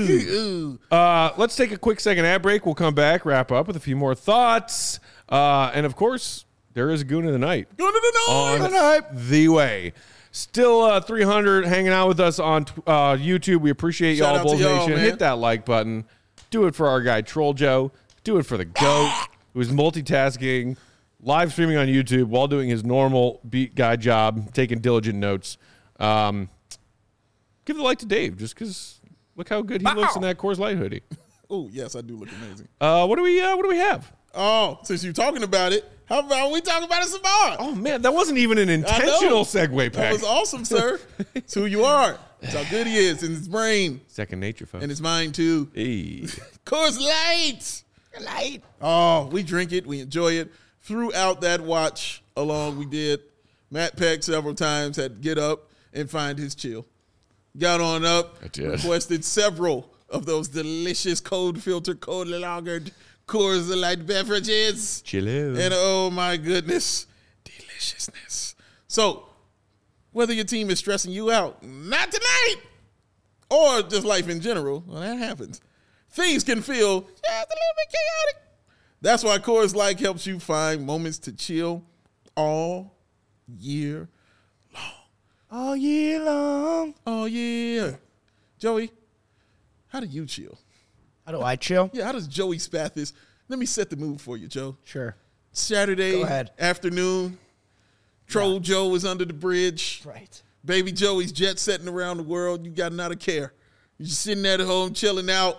Let's take a quick second ad break. We'll come back, wrap up with a few more thoughts. And, of course, there is a Goon of the Night. Goon of the Night. On the way. Still 300 hanging out with us on YouTube. We appreciate y'all, Bulls Nation. Hit that like button. Do it for our guy, Troll Joe. Do it for the GOAT, who is multitasking, live streaming on YouTube while doing his normal beat guy job, taking diligent notes. Give the like to Dave, just because look how good he looks in that Coors Light hoodie. Oh, yes, I do look amazing. What do we have? Oh, since you're talking about it, how about we talk about it some more? Oh, man, that wasn't even an intentional segue, Pack. That was awesome, sir. It's who you are. It's how good he is in his brain. Second nature, folks. And his mind, too. Hey. Coors Light. Oh, we drink it. We enjoy it. Throughout that watch along, we did. Matt Peck several times had to get up and find his chill. Got on up, requested several of those delicious cold filtered, cold lagered Coors Light beverages. Chill out. And oh my goodness, deliciousness. So, whether your team is stressing you out, not tonight, or just life in general, well, that happens. Things can feel just a little bit chaotic. That's why Coors Light helps you find moments to chill all year long. All year long. Oh, yeah. Joey, how do you chill? How do I chill? Yeah, how does Joey Spathis? Let me set the mood for you, Joe. Sure. Saturday Go ahead. afternoon, Troll Joe is under the bridge. Right. Baby Joey's jet setting around the world. You got not a care. You're just sitting at home, chilling out,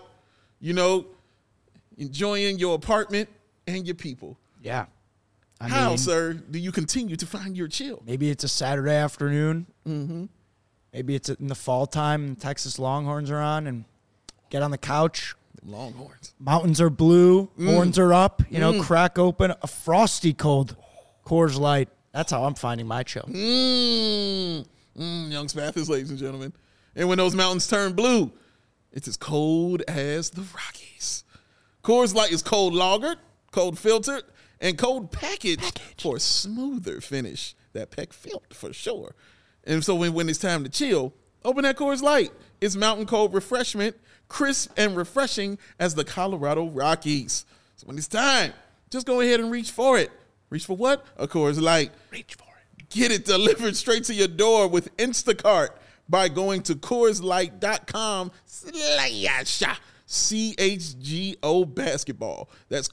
enjoying your apartment and your people. Yeah. How, sir, do you continue to find your chill? Maybe it's a Saturday afternoon. Mm-hmm. Maybe it's in the fall time and Texas Longhorns are on and get on the couch. Longhorns. Mountains are blue. Horns are up. Crack open a frosty cold Coors Light. That's how I'm finding my chill. Young Spathis, ladies and gentlemen. And when those mountains turn blue, it's as cold as the Rockies. Coors Light is cold lagered, cold filtered, and cold packaged for a smoother finish. That peck felt for sure. And so when it's time to chill, open that Coors Light. It's mountain cold refreshment, crisp and refreshing as the Colorado Rockies. So when it's time, just go ahead and reach for it. Reach for what? A Coors Light. Reach for it. Get it delivered straight to your door with Instacart by going to CHGO basketball. That's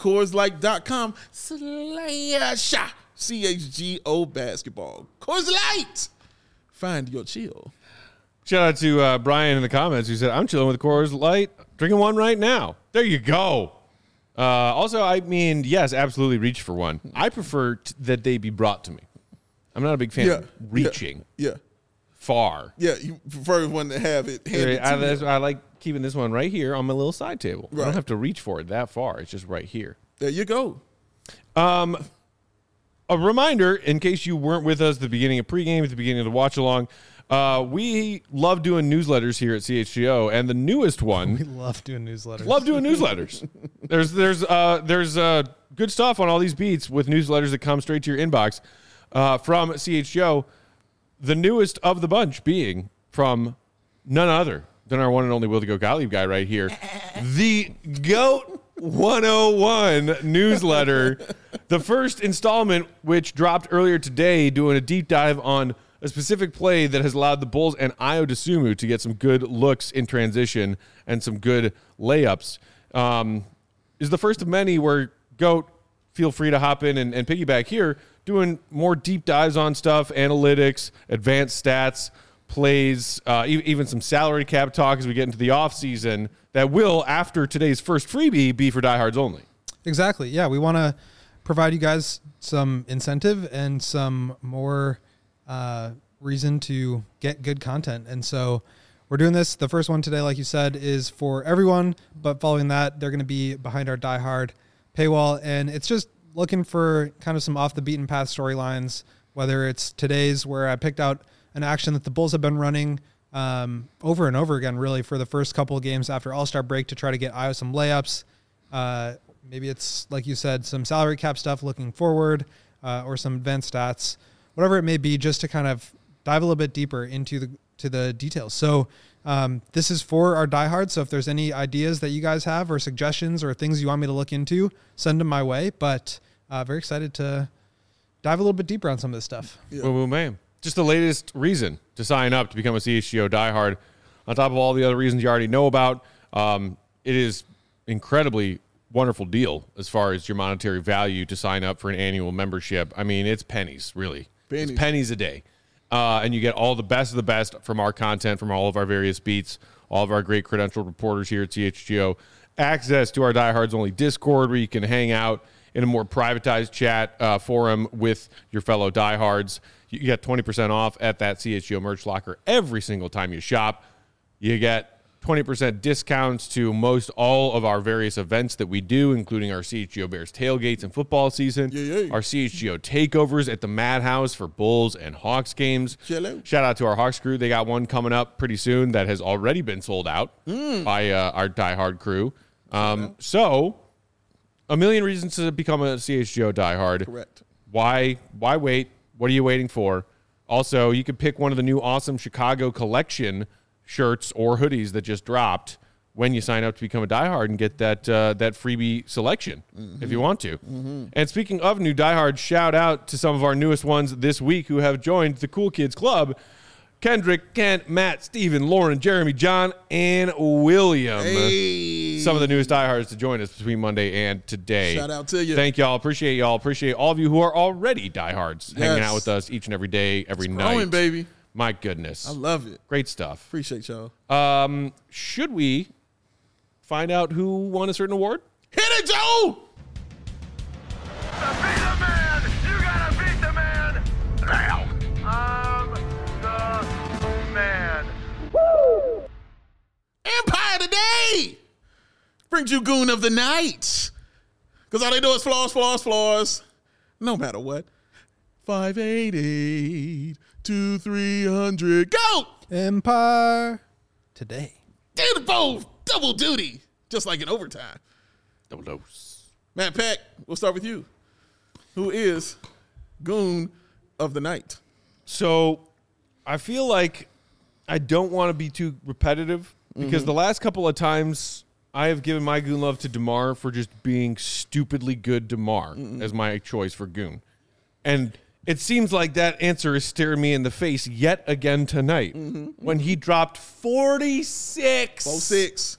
CHGO basketball. Coors Light. Find your chill. Shout out to Brian in the comments who said, I'm chilling with Coors Light, drinking one right now. There you go. Also, I mean, yes, absolutely reach for one. I prefer that they be brought to me. I'm not a big fan of reaching far. Yeah, you prefer one to have it handed to you. I like keeping this one right here on my little side table. Right. I don't have to reach for it that far. It's just right here. There you go. A reminder, in case you weren't with us at the beginning of pregame, at the beginning of the watch-along, we love doing newsletters here at CHGO, and the newest one... We love doing newsletters. Love doing newsletters. There's good stuff on all these beats with newsletters that come straight to your inbox from CHGO. The newest of the bunch being from none other than our one and only Will the Goat Gottlieb guy right here. The GOAT 101 newsletter. The first installment, which dropped earlier today, doing a deep dive on a specific play that has allowed the Bulls and Ayo Dosunmu to get some good looks in transition and some good layups, is the first of many where GOAT, feel free to hop in and piggyback here, doing more deep dives on stuff, analytics, advanced stats, plays, even some salary cap talk as we get into the offseason that will, after today's first freebie, be for diehards only. Exactly. Yeah, we want to provide you guys some incentive and some more reason to get good content. And so we're doing this. The first one today, like you said, is for everyone, but following that, they're going to be behind our diehard paywall. And it's just looking for kind of some off the beaten path storylines, whether it's today's where I picked out an action that the Bulls have been running over and over again, really, for the first couple of games after All-Star break to try to get Ayo some layups. Maybe it's, like you said, some salary cap stuff looking forward or some advanced stats, whatever it may be, just to kind of dive a little bit deeper into the details. So this is for our diehards. So if there's any ideas that you guys have or suggestions or things you want me to look into, send them my way. But very excited to dive a little bit deeper on some of this stuff. Yeah. Boom, boom, bam. Just the latest reason to sign up to become a CHGO diehard, on top of all the other reasons you already know about. It is incredibly wonderful deal as far as your monetary value to sign up for an annual membership. I mean, it's pennies, really. Pennies. It's pennies a day. And you get all the best of the best from our content, from all of our various beats, all of our great credentialed reporters here at CHGO. Access to our diehards only Discord where you can hang out in a more privatized chat forum with your fellow diehards. You get 20% off at that CHGO merch locker every single time you shop. You get 20% discounts to most all of our various events that we do, including our CHGO Bears tailgates and football season, our CHGO takeovers at the Madhouse for Bulls and Hawks games. Hello. Shout out to our Hawks crew. They got one coming up pretty soon that has already been sold out by our diehard crew. So, a million reasons to become a CHGO diehard. Correct. Why wait? What are you waiting for? Also, you could pick one of the new awesome Chicago collection shirts or hoodies that just dropped when you sign up to become a diehard and get that freebie selection if you want to. And speaking of new diehards, shout out to some of our newest ones this week who have joined the Cool Kids Club. Kendrick, Kent, Matt, Steven, Lauren, Jeremy, John, and William. Hey. Some of the newest diehards to join us between Monday and today. Shout out to you. Thank y'all. Appreciate y'all. Appreciate all of you who are already diehards hanging out with us each and every day, every night. Growing, baby. My goodness. I love it. Great stuff. Appreciate y'all. Should we find out who won a certain award? Hit it, Joe! To be the man, you gotta beat the man now. I'm the man. Empire Today brings you Goon of the Night. Because all they do is floors. No matter what. 588 to 300. Go! Empire Today. Did both. Double duty. Just like in overtime. Double dose. Matt Peck, we'll start with you. Who is Goon of the Night? So I feel like I don't want to be too repetitive because the last couple of times I have given my Goon love to DeMar for just being stupidly good DeMar as my choice for Goon. And it seems like that answer is staring me in the face yet again tonight when he dropped 46. 06.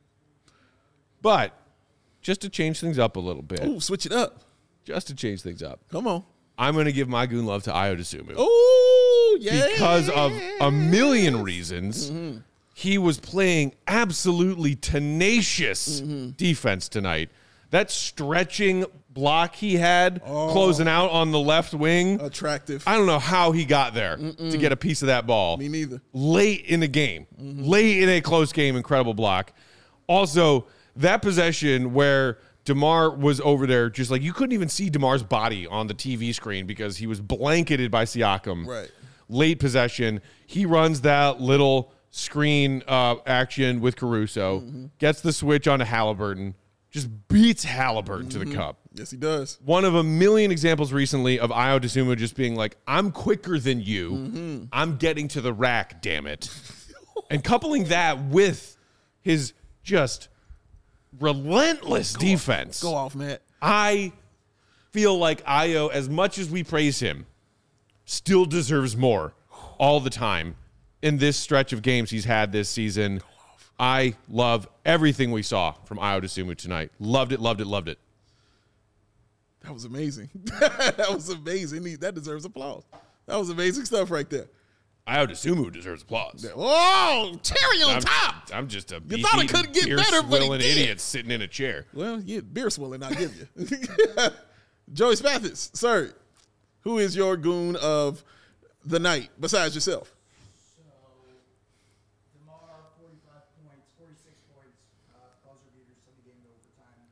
But just to change things up a little bit, Ooh, switch it up. just to change things up, Come on. I'm going to give my Goon love to Ayo Dosunmu. Ooh, yeah. Because of a million reasons. He was playing absolutely tenacious defense tonight. That stretching block he had closing out on the left wing. Attractive. I don't know how he got there to get a piece of that ball. Me neither. Late in the game. Late in a close game, incredible block. Also, that possession where DeMar was over there, just like you couldn't even see DeMar's body on the TV screen because he was blanketed by Siakam. Right. Late possession. He runs that little screen action with Caruso, gets the switch onto Halliburton, just beats Halliburton to the cup. Yes, he does. One of a million examples recently of Ayo Dosunmu just being like, I'm quicker than you. I'm getting to the rack, damn it. And coupling that with his just relentless defense. Go off, Matt. I feel like Ayo, as much as we praise him, still deserves more all the time in this stretch of games he's had this season. I love everything we saw from Ayo Dosunmu tonight. Loved it, loved it, loved it. That was amazing. That was amazing. That deserves applause. That was amazing stuff right there. Ayo Dosunmu deserse applause. Oh, cherry on top. I'm just a You thought it couldn't get better, but it did. idiot sitting in a chair. Well, yeah, beer swilling, I'll give you. Joey Spathis, sir, who is your goon of the night besides yourself? So, DeMar, 45 points, 46 points, buzzer beaters, send the game to overtime.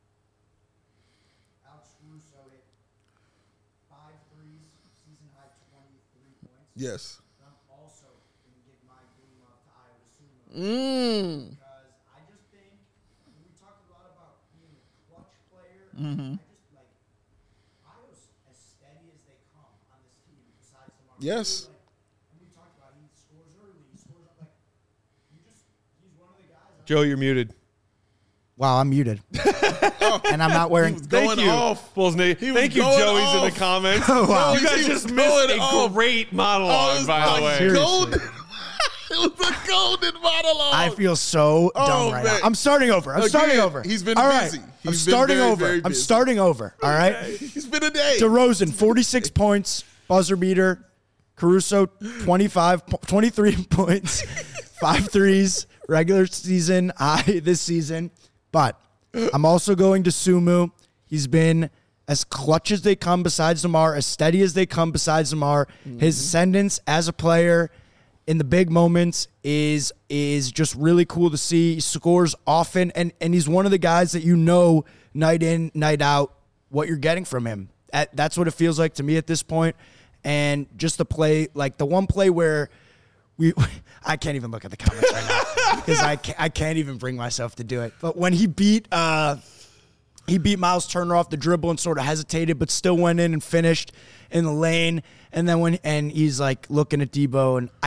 Alex Caruso hit 5 threes, season high 23 points. Yes. I'm also going to give my goon love to Ayo Dosunmu. Because I just think, we talked a lot about being a clutch player. I just like, Ayo's as steady as they come on this team besides DeMar. Yes. And we talked about he scores early, he scores like, he's one of the guys. Joe, you're muted. Wow, I'm muted. And I'm not wearing. Going off. Bulls Nate. He was Thank you, going Joey's in off. the comments. Wow. You guys He was just missed going a off. great monologue, by the way. Seriously. Golden. It was a golden monologue. I feel so dumb right man. now. I'm starting over. I'm starting Again, over. he's been All right. busy. I'm He's been starting very, over. very I'm busy. starting over. All right. He's been a day. DeRozan, 46 points, buzzer beater. Caruso, 23 points, 5 threes, regular season high this season. But I'm also going to Sumu. He's been as clutch as they come besides DeMar, as steady as they come besides DeMar. His ascendance as a player in the big moments is just really cool to see. He scores often, and he's one of the guys that night in, night out, what you're getting from him. That's what it feels like to me at this point. And just the play, like the one play where I can't even look at the comments right now because I can't even bring myself to do it. But when he beat Miles Turner off the dribble and sort of hesitated, but still went in and finished in the lane. And then he's like looking at Debo and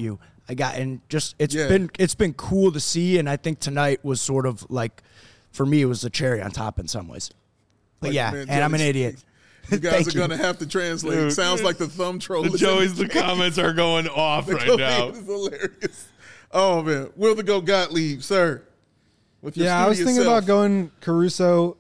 it's been cool to see. And I think tonight was sort of like, for me, it was a cherry on top in some ways. But I'm an idiot. You guys are going to have to translate. It sounds like the thumb troll. The comments are going off right now. It's hilarious. Oh, man. Will the Go Gottlieb, sir. With your I was thinking self. about going Caruso.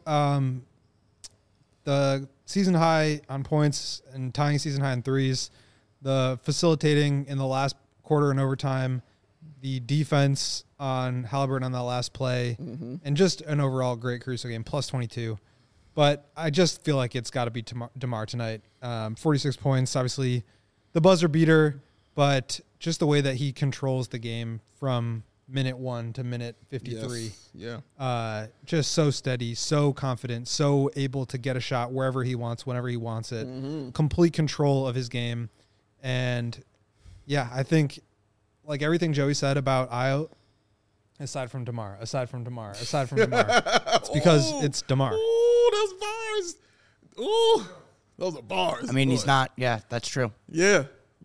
The season high on points and tying season high in threes. The facilitating in the last quarter and overtime. The defense on Halliburton on that last play. Mm-hmm. And just an overall great Caruso game, plus 22. But I just feel like it's got to be DeMar tonight. 46 points, obviously the buzzer beater, but just the way that he controls the game from minute 1 to minute 53. Yes. Yeah. Just so steady, so confident, so able to get a shot wherever he wants, whenever he wants it. Mm-hmm. Complete control of his game. And, I think, like everything Joey said about Ayo, aside from DeMar, it's because it's DeMar. Ooh, those bars. Ooh, those are bars. I mean, boy. He's not. Yeah, that's true. Yeah.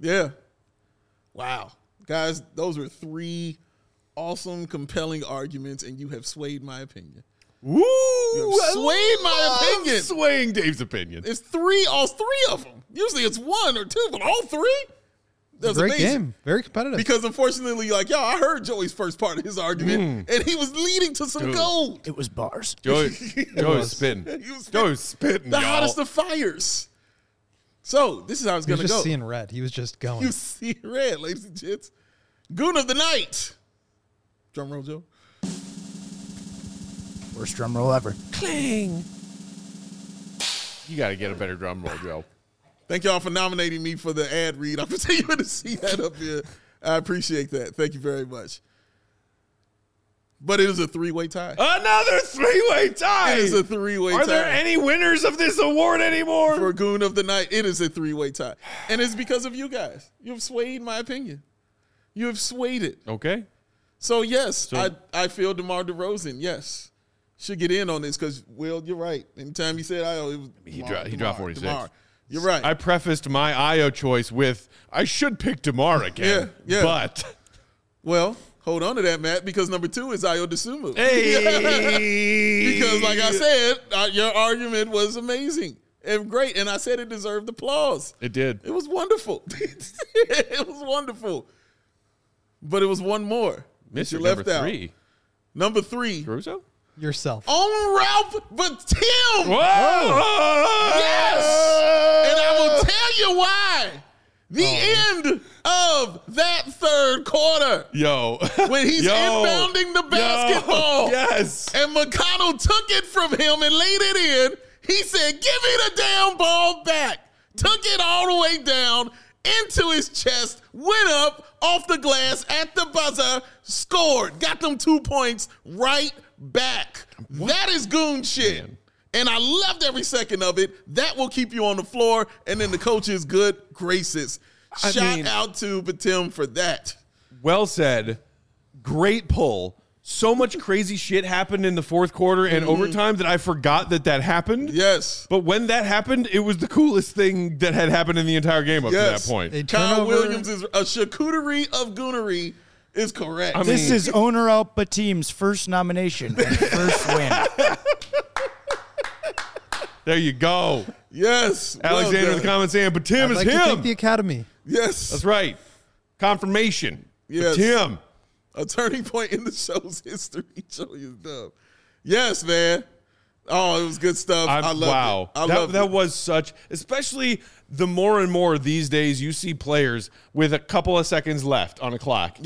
Wow. Guys, those were 3 awesome, compelling arguments, and you have swayed my opinion. Woo! You have swayed my opinion. Swaying Dave's opinion. It's all 3 of them. Usually it's 1 or 2, but all 3? That's great amazing. game. Very competitive. Because unfortunately, I heard Joey's first part of his argument, and he was leading to some gold. It was bars. Joey's spitting. Joey's spitting, the hottest of fires. So this is how it's going to go. He was just seeing red. He was just going. You see red, ladies and gents. Goon of the night. Drum roll, Joe. Worst drum roll ever. Cling. You got to get a better drum roll, Joe. Thank y'all for nominating me for the ad read. I'm continuing to see that up here. I appreciate that. Thank you very much. But it is a 3-way tie. Another 3-way tie. It is a 3-way tie. Are there any winners of this award anymore? For Goon of the Night, it is a 3-way tie. And it's because of you guys. You have swayed my opinion. You have swayed it. Okay. So, yes, I feel DeMar DeRozan, yes, should get in on this because, Will, you're right. Anytime you said Ayo, it was he dropped 46. DeMar. You're right. I prefaced my Ayo choice with, I should pick DeMar again. Yeah. But. Well, hold on to that, Matt, because number 2 is Ayo Dosunmu. Hey! Because, like I said, your argument was amazing and great, and I said it deserved applause. It did. It was wonderful. It was wonderful. But it was one more. Mr. Left number out. 3. Number 3. Caruso? Yourself. On Ralph Batum. Whoa! Yes. And I will tell you why. The end of that third quarter. When he's inbounding the basketball. Yes. And McConnell took it from him and laid it in. He said, give me the damn ball back. Took it all the way down into his chest, went up off the glass at the buzzer, scored, got them 2 points right back. What? That is goon shit. Man. And I loved every second of it. That will keep you on the floor and in the coach's good graces. Shout out to Batum for that. Well said. Great pull. So much crazy shit happened in the fourth quarter and overtime that I forgot that happened. Yes. But when that happened, it was the coolest thing that had happened in the entire game up to that point. Kyle Williams is a charcuterie of goonery is correct. This is Owner Al Batum's first nomination and first win. There you go. Yes. Alexander in the comments saying, Batum is him. To thank the Academy. Yes. That's right. Confirmation. Yes. Batum. A turning point in the show's history. Joey is dumb. Yes, man. Oh, it was good stuff. I loved it. That was such, especially the more and more these days you see players with a couple of seconds left on a clock. Yeah.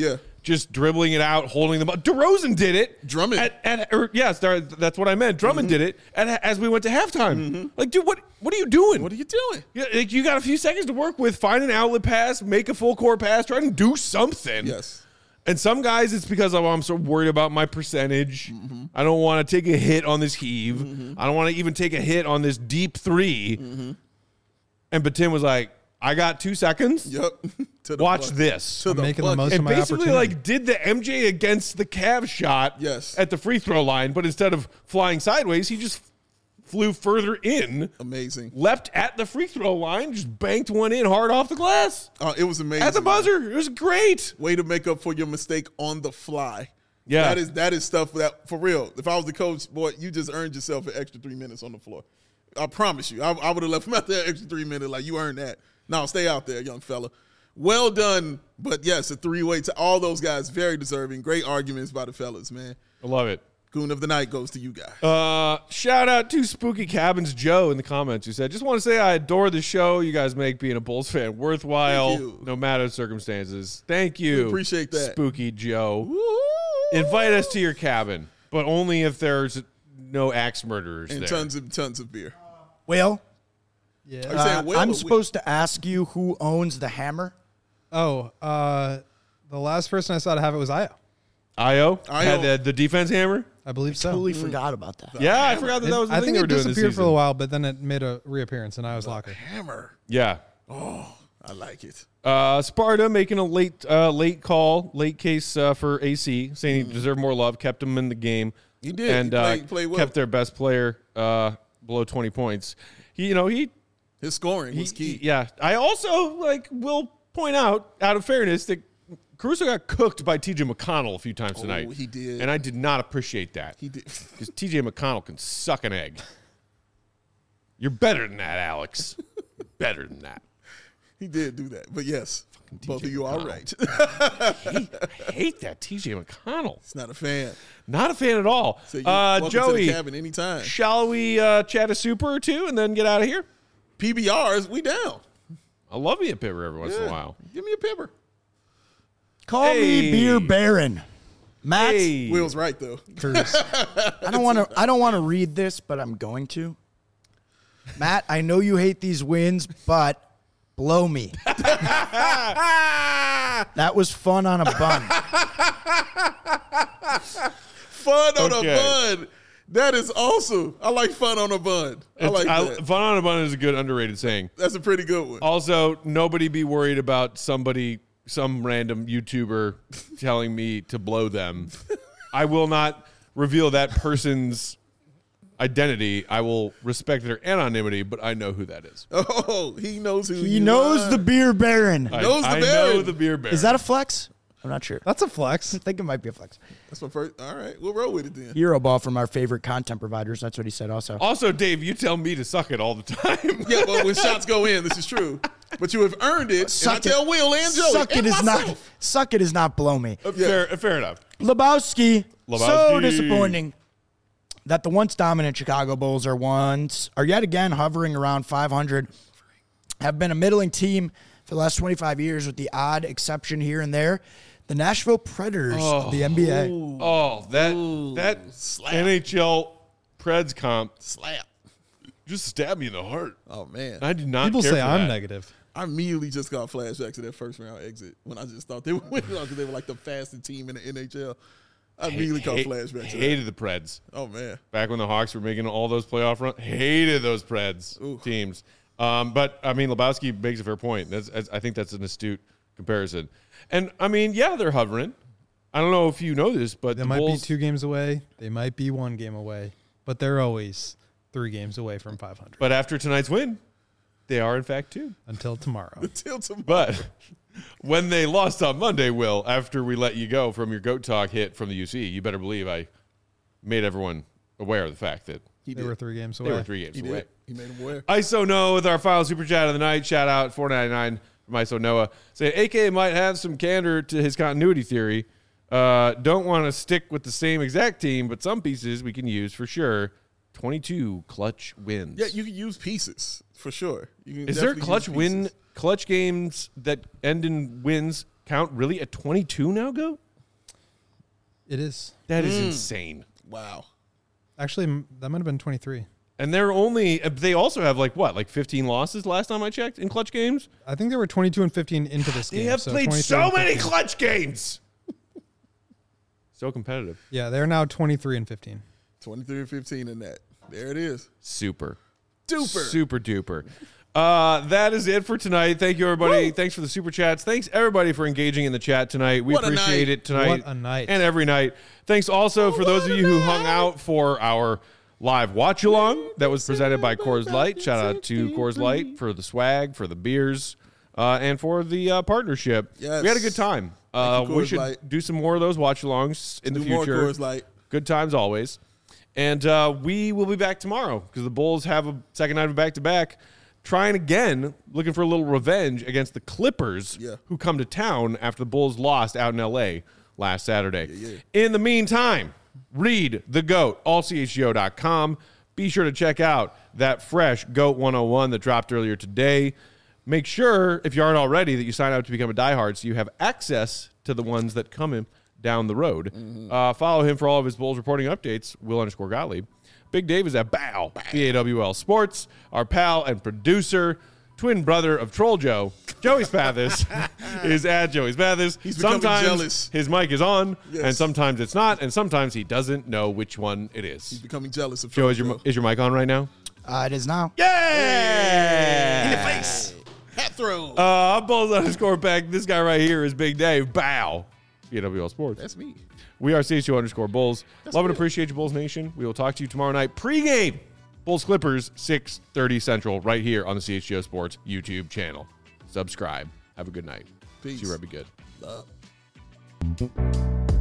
just dribbling it out, holding the ball. DeRozan did it. Drummond. That's what I meant. Drummond did it as we went to halftime. Like, dude, what are you doing? What are you doing? Yeah, like, you got a few seconds to work with. Find an outlet pass, make a full court pass, try and do something. Yes. And some guys, it's because I'm so worried about my percentage. I don't want to take a hit on this heave. I don't want to even take a hit on this deep three. And Batum was like, I got 2 seconds. Yep. Watch this. I'm making the most of And my basically, opportunity. did the MJ against the Cavs shot Yes. at the free throw line, but instead of flying sideways, he just flew further in, Amazing. leapt at the free throw line, just banked one in hard off the glass. It was amazing. At the buzzer. It was great. Way to make up for your mistake on the fly. Yeah. That is stuff that, for real, if I was the coach, boy, you just earned yourself an extra 3 minutes on the floor. I promise you. I would have left him out there extra 3 minutes like you earned that. No, stay out there, young fella. Well done. But yes, a three-way to all those guys, very deserving. Great arguments by the fellas, man. I love it. Goon of the night goes to you guys. Shout out to Spooky Cabins Joe in the comments who said, just want to say I adore the show you guys make being a Bulls fan worthwhile, Thank you. no matter the circumstances. Thank you. We appreciate that. Spooky Joe. Woo! Invite us to your cabin, but only if there's no axe murderers And there. tons of beer. Will, I'm saying Will, I'm but supposed to ask you who owns the hammer. Oh, the last person I saw to have it was Io. Io Io. had the defense hammer. I believe so. Totally forgot about that. Yeah, I forgot that was the I thing think they were it doing this disappeared for a season. while, but then it made a reappearance in Io's locker. Hammer. Yeah. I like it. Sparta making a late case for AC, saying he deserved more love, kept him in the game. He did. And He played well. kept their best player below 20 points. His scoring was key. Yeah. I also will point out of fairness, that Caruso got cooked by TJ McConnell a few times tonight. he did. And I did not appreciate that. He did. Because TJ McConnell can suck an egg. You're better than that, Alex. You're better than that. He did do that. But yes, both of you are right. I hate that TJ McConnell. It's not a fan. Not a fan at all. So you welcome to Joey, the cabin anytime. shall we chat a super or two and then get out of here? PBRs, we down. I love me a pipper every once in a while. Give me a pepper. Call me Beer Baron. Matt, Hey. Will's right though. I don't want to read this, but I'm going to. Matt, I know you hate these wins, but blow me. That was fun on a bun. Fun on Okay. a bun. That is awesome. I like fun on a bun. I like that. Fun on a bun is a good underrated saying. That's a pretty good one. Also, nobody be worried about some random YouTuber telling me to blow them. I will not reveal that person's identity. I will respect their anonymity, but I know who that is. Oh, he knows who He you knows are. the Beer Baron. I Knows the know Baron. the beer bear. Is that a flex? I'm not sure. That's a flex. I think it might be a flex. That's my first. All right, we'll roll with it then. Hero ball from our favorite content providers. That's what he said also. Also, Dave, you tell me to suck it all the time. Yeah, well, when shots go in, this is true. But you have earned it. Suck and I tell Will and Joey. Suck it and is not. myself. Suck it is not blow me. Fair enough. Lebowski. So Lebowski. disappointing that the once dominant Chicago Bulls are yet again hovering around 500. Have been a middling team for the last 25 years, with the odd exception here and there. The Nashville Predators of the NBA. Oh, that NHL Preds comp Slap. just stabbed me in the heart. Oh man, I did not People care say for I'm that. negative. I immediately just got flashbacks to that first round exit when I just thought they would win because they were like the fastest team in the NHL. I immediately caught flashbacks to that. Hated the Preds. Oh man, Back when the Hawks were making all those playoff runs, hated those Preds teams. But I mean, Lebowski makes a fair point. I think that's an astute comparison. And I mean, yeah, they're hovering. I don't know if you know this, but They the might Bulls, be 2 games away. They might be 1 game away, but they're always 3 games away from 500 But after tonight's win, they are in fact 2. until tomorrow. till tomorrow. But when they lost on Monday, Will, after we let you go from your GOAT Talk hit from the UC, you better believe I made everyone aware of the fact that They were 3 games away. they were 3 games he away. did. He made him aware. ISO Noah with our final super chat of the night. Shout out $4.99 from ISO Noah. Saying AK might have some candor to his continuity theory. Don't want to stick with the same exact team, but some pieces we can use for sure. 22 clutch wins. Yeah, you can use pieces for sure. You can Is there definitely use pieces. clutch games that end in wins count really at 22 now, Go? It is. That is insane. Wow. Actually, that might have been 23. And they also have like 15 losses last time I checked in clutch games? I think they were 22 and 15 into this game. They have so played 23 so and many 15. clutch games. So competitive. Yeah, they're now 23 and 15. 23-15 in that. There it is. Super. Duper. Super duper. That is it for tonight. Thank you, everybody. Thanks for the super chats. Thanks, everybody, for engaging in the chat tonight. We What a appreciate night. it tonight. What a night. And every night. Thanks also for those of you who hung out for our live watch along that was presented by Coors Light. Shout out to Coors Light for the swag, for the beers, and for the partnership. Yes. We had a good time. Thank you, We Coors should Light. do some more of those watch alongs in the Do more future. Coors Light. Good times always. And we will be back tomorrow because the Bulls have a second night of back-to-back. Trying again, looking for a little revenge against the Clippers, who come to town after the Bulls lost out in L.A. last Saturday. In the meantime, read The GOAT, allchgo.com. Be sure to check out that fresh GOAT 101 that dropped earlier today. Make sure, if you aren't already, that you sign up to become a diehard so you have access to the ones that come in down the road. Follow him for all of his Bulls reporting updates, Will_Gottlieb. Big Dave is at BAW, BAWL Sports. Our pal and producer, twin brother of Troll Joe, Joey Spathis, is at Joey Spathis. He's becoming sometimes jealous. his mic is on, Yes. and sometimes it's not, and sometimes he doesn't know which one it is. He's becoming jealous of Joe, Troll is your mic on right now? It is now. Yeah! In the face. Hat throw. I'm Bulls_Beck. This guy right here is Big Dave. BAW, BAWL Sports. That's me. We are CHO_Bulls. Love and appreciate you, Bulls Nation. We will talk to you tomorrow night. Pre-game, Bulls Clippers, 6:30 Central, right here on the CHGO Sports YouTube channel. Subscribe. Have a good night. Peace. See you, Rebbe Good. Love.